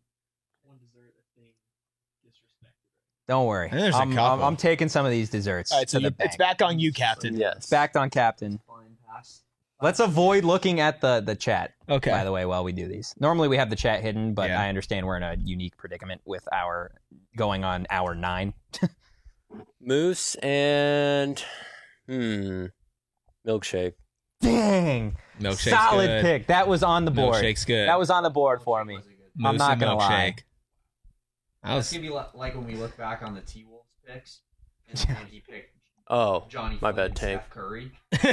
Don't worry. There's a I'm, I'm, couple. I'm taking some of these desserts. All right, so to the you, it's bank. back on you, Captain. Yes. It's backed on Captain. Let's avoid looking at the the chat. Okay. By the way, while we do these, normally we have the chat hidden, but Yeah. I understand we're in a unique predicament with our going on hour nine. Mousse and hmm, milkshake. Dang, Milkshake's solid good. pick. That was on the board. Milkshake's good. That was on the board for me. I'm Moose not and gonna lie. milkshake. That That's was gonna be li- like when we look back on the T Wolves picks, and, and he picked Oh, Johnny. my Flynn bad, and Tank. Steph Curry.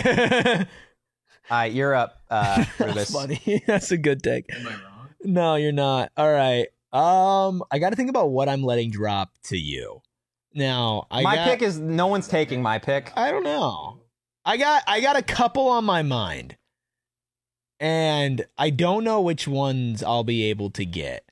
All right, you're up, uh, That's Rubus. funny. That's a good take. Am I wrong? No, you're not. All right. Um, I got to think about what I'm letting drop to you. Now, I my got, pick is no one's taking my pick. I don't know. I got I got a couple on my mind, and I don't know which ones I'll be able to get.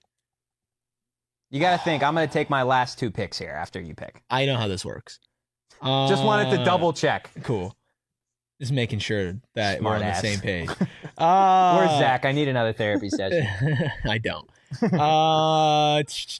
You got to think. I'm going to take my last two picks here after you pick. I know how this works. Just wanted to Uh, double check. Cool. Just making sure that Smart we're on ass. the same page. Uh, Where's Zach? I need another therapy session. I don't. Uh,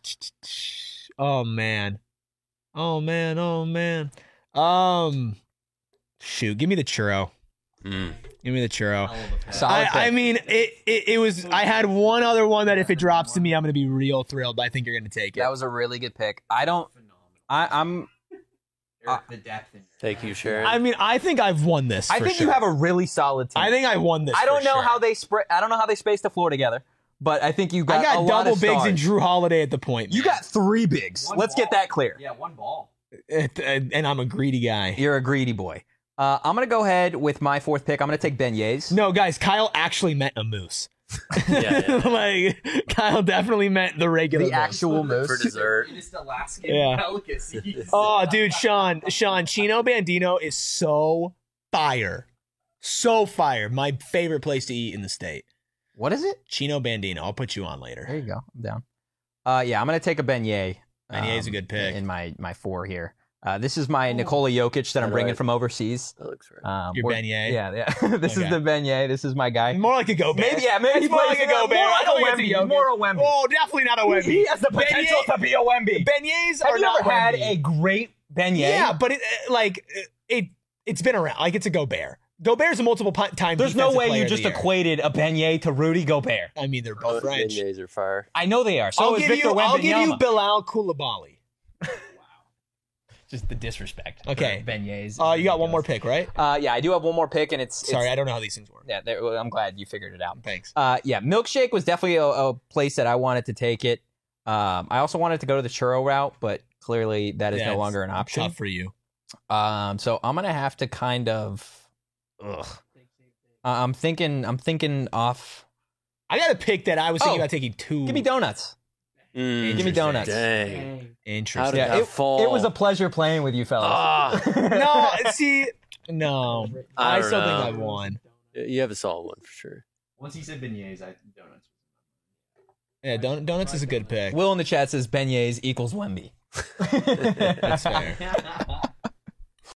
oh man. Oh man. Oh man. Um, shoot. Give me the churro. Mm. Give me the churro. Hell of a pick. Solid I, pick. I mean, it, it. It was. I had one other one that if it drops to me, I'm gonna be real thrilled. But I think you're gonna take it. That was a really good pick. I don't. I, I'm. Eric, the depth in Thank you, Sharon. I mean, I think I've won this. I for think sure. you have a really solid team. I think I won this. I don't for know sure. how they spread. I don't know how they spaced the floor together, but I think you got. I got a lot double of bigs stars. and Drew Holiday at the point. You man. got three bigs. One Let's get ball. that clear. Yeah, one ball. It- and and I'm a greedy guy. You're a greedy boy. Uh, I'm gonna go ahead with my fourth pick. I'm gonna take beignets. No, guys, Kyle actually meant a moose. Yeah, yeah. Like Kyle definitely meant the regular the moose. actual moose. For dessert. It is the Alaskan Yeah. delicacy. Oh, dude, Sean, Sean, Chino Bandino is so fire, so fire. My favorite place to eat in the state. What is it? Chino Bandino. I'll put you on There later. you go. I'm down. Uh, yeah, I'm gonna take a beignet. Beignet is a good pick. in my my four here. Uh, this is my Nikola Jokic that I'm All bringing right. from overseas. That looks right. Um, Your we're- beignet? Yeah, yeah. this Okay. is the beignet. This is my guy. More like a go bear. Maybe, yeah, maybe It's more plays like a go more bear. like I don't a think it's Wemby. Jokic. More a Wemby. Oh, definitely not a Wemby. He has the potential Beignet- to be a Wemby. Beignets Have are you not ever had Wemby. a great beignet? Yeah, but it uh, like it, it it's been around. Like it's a Gobert. Gobert's a multiple pi- time. There's no defensive way player you of the just year. equated a beignet to Rudy Gobert. I mean, they're Both both French. beignets are fire. I know they are. So I'll is give Victor you. I'll give you Wembanyama. Bilal Koulibaly. Just the disrespect. Okay. For beignets. Uh, you got one more pick, right? Uh, yeah, I do have one more pick, and it's Sorry, it's, I don't know how these things work. Yeah, there, well, I'm glad you figured it out. Thanks. Uh, yeah, Milkshake was definitely a, a place that I wanted to take it. Um, I also wanted to go to the churro route, but clearly that is Yeah, no it's longer an option. Tough for you. Um, so I'm gonna have to kind of. Ugh. Uh, I'm thinking. I'm thinking off. I got a pick that I was thinking Oh, about taking two. Give me donuts. Mm, Give me donuts. Dang. How Interesting. did Yeah, that it, fall? it was a pleasure playing with you fellas. Ah, no, see, no. I I, don't still know. think I won. you have a solid one for sure. Once he said beignets, I donuts. Yeah, don- donuts is a good pick. Will in the chat says beignets equals Wemby. That's fair.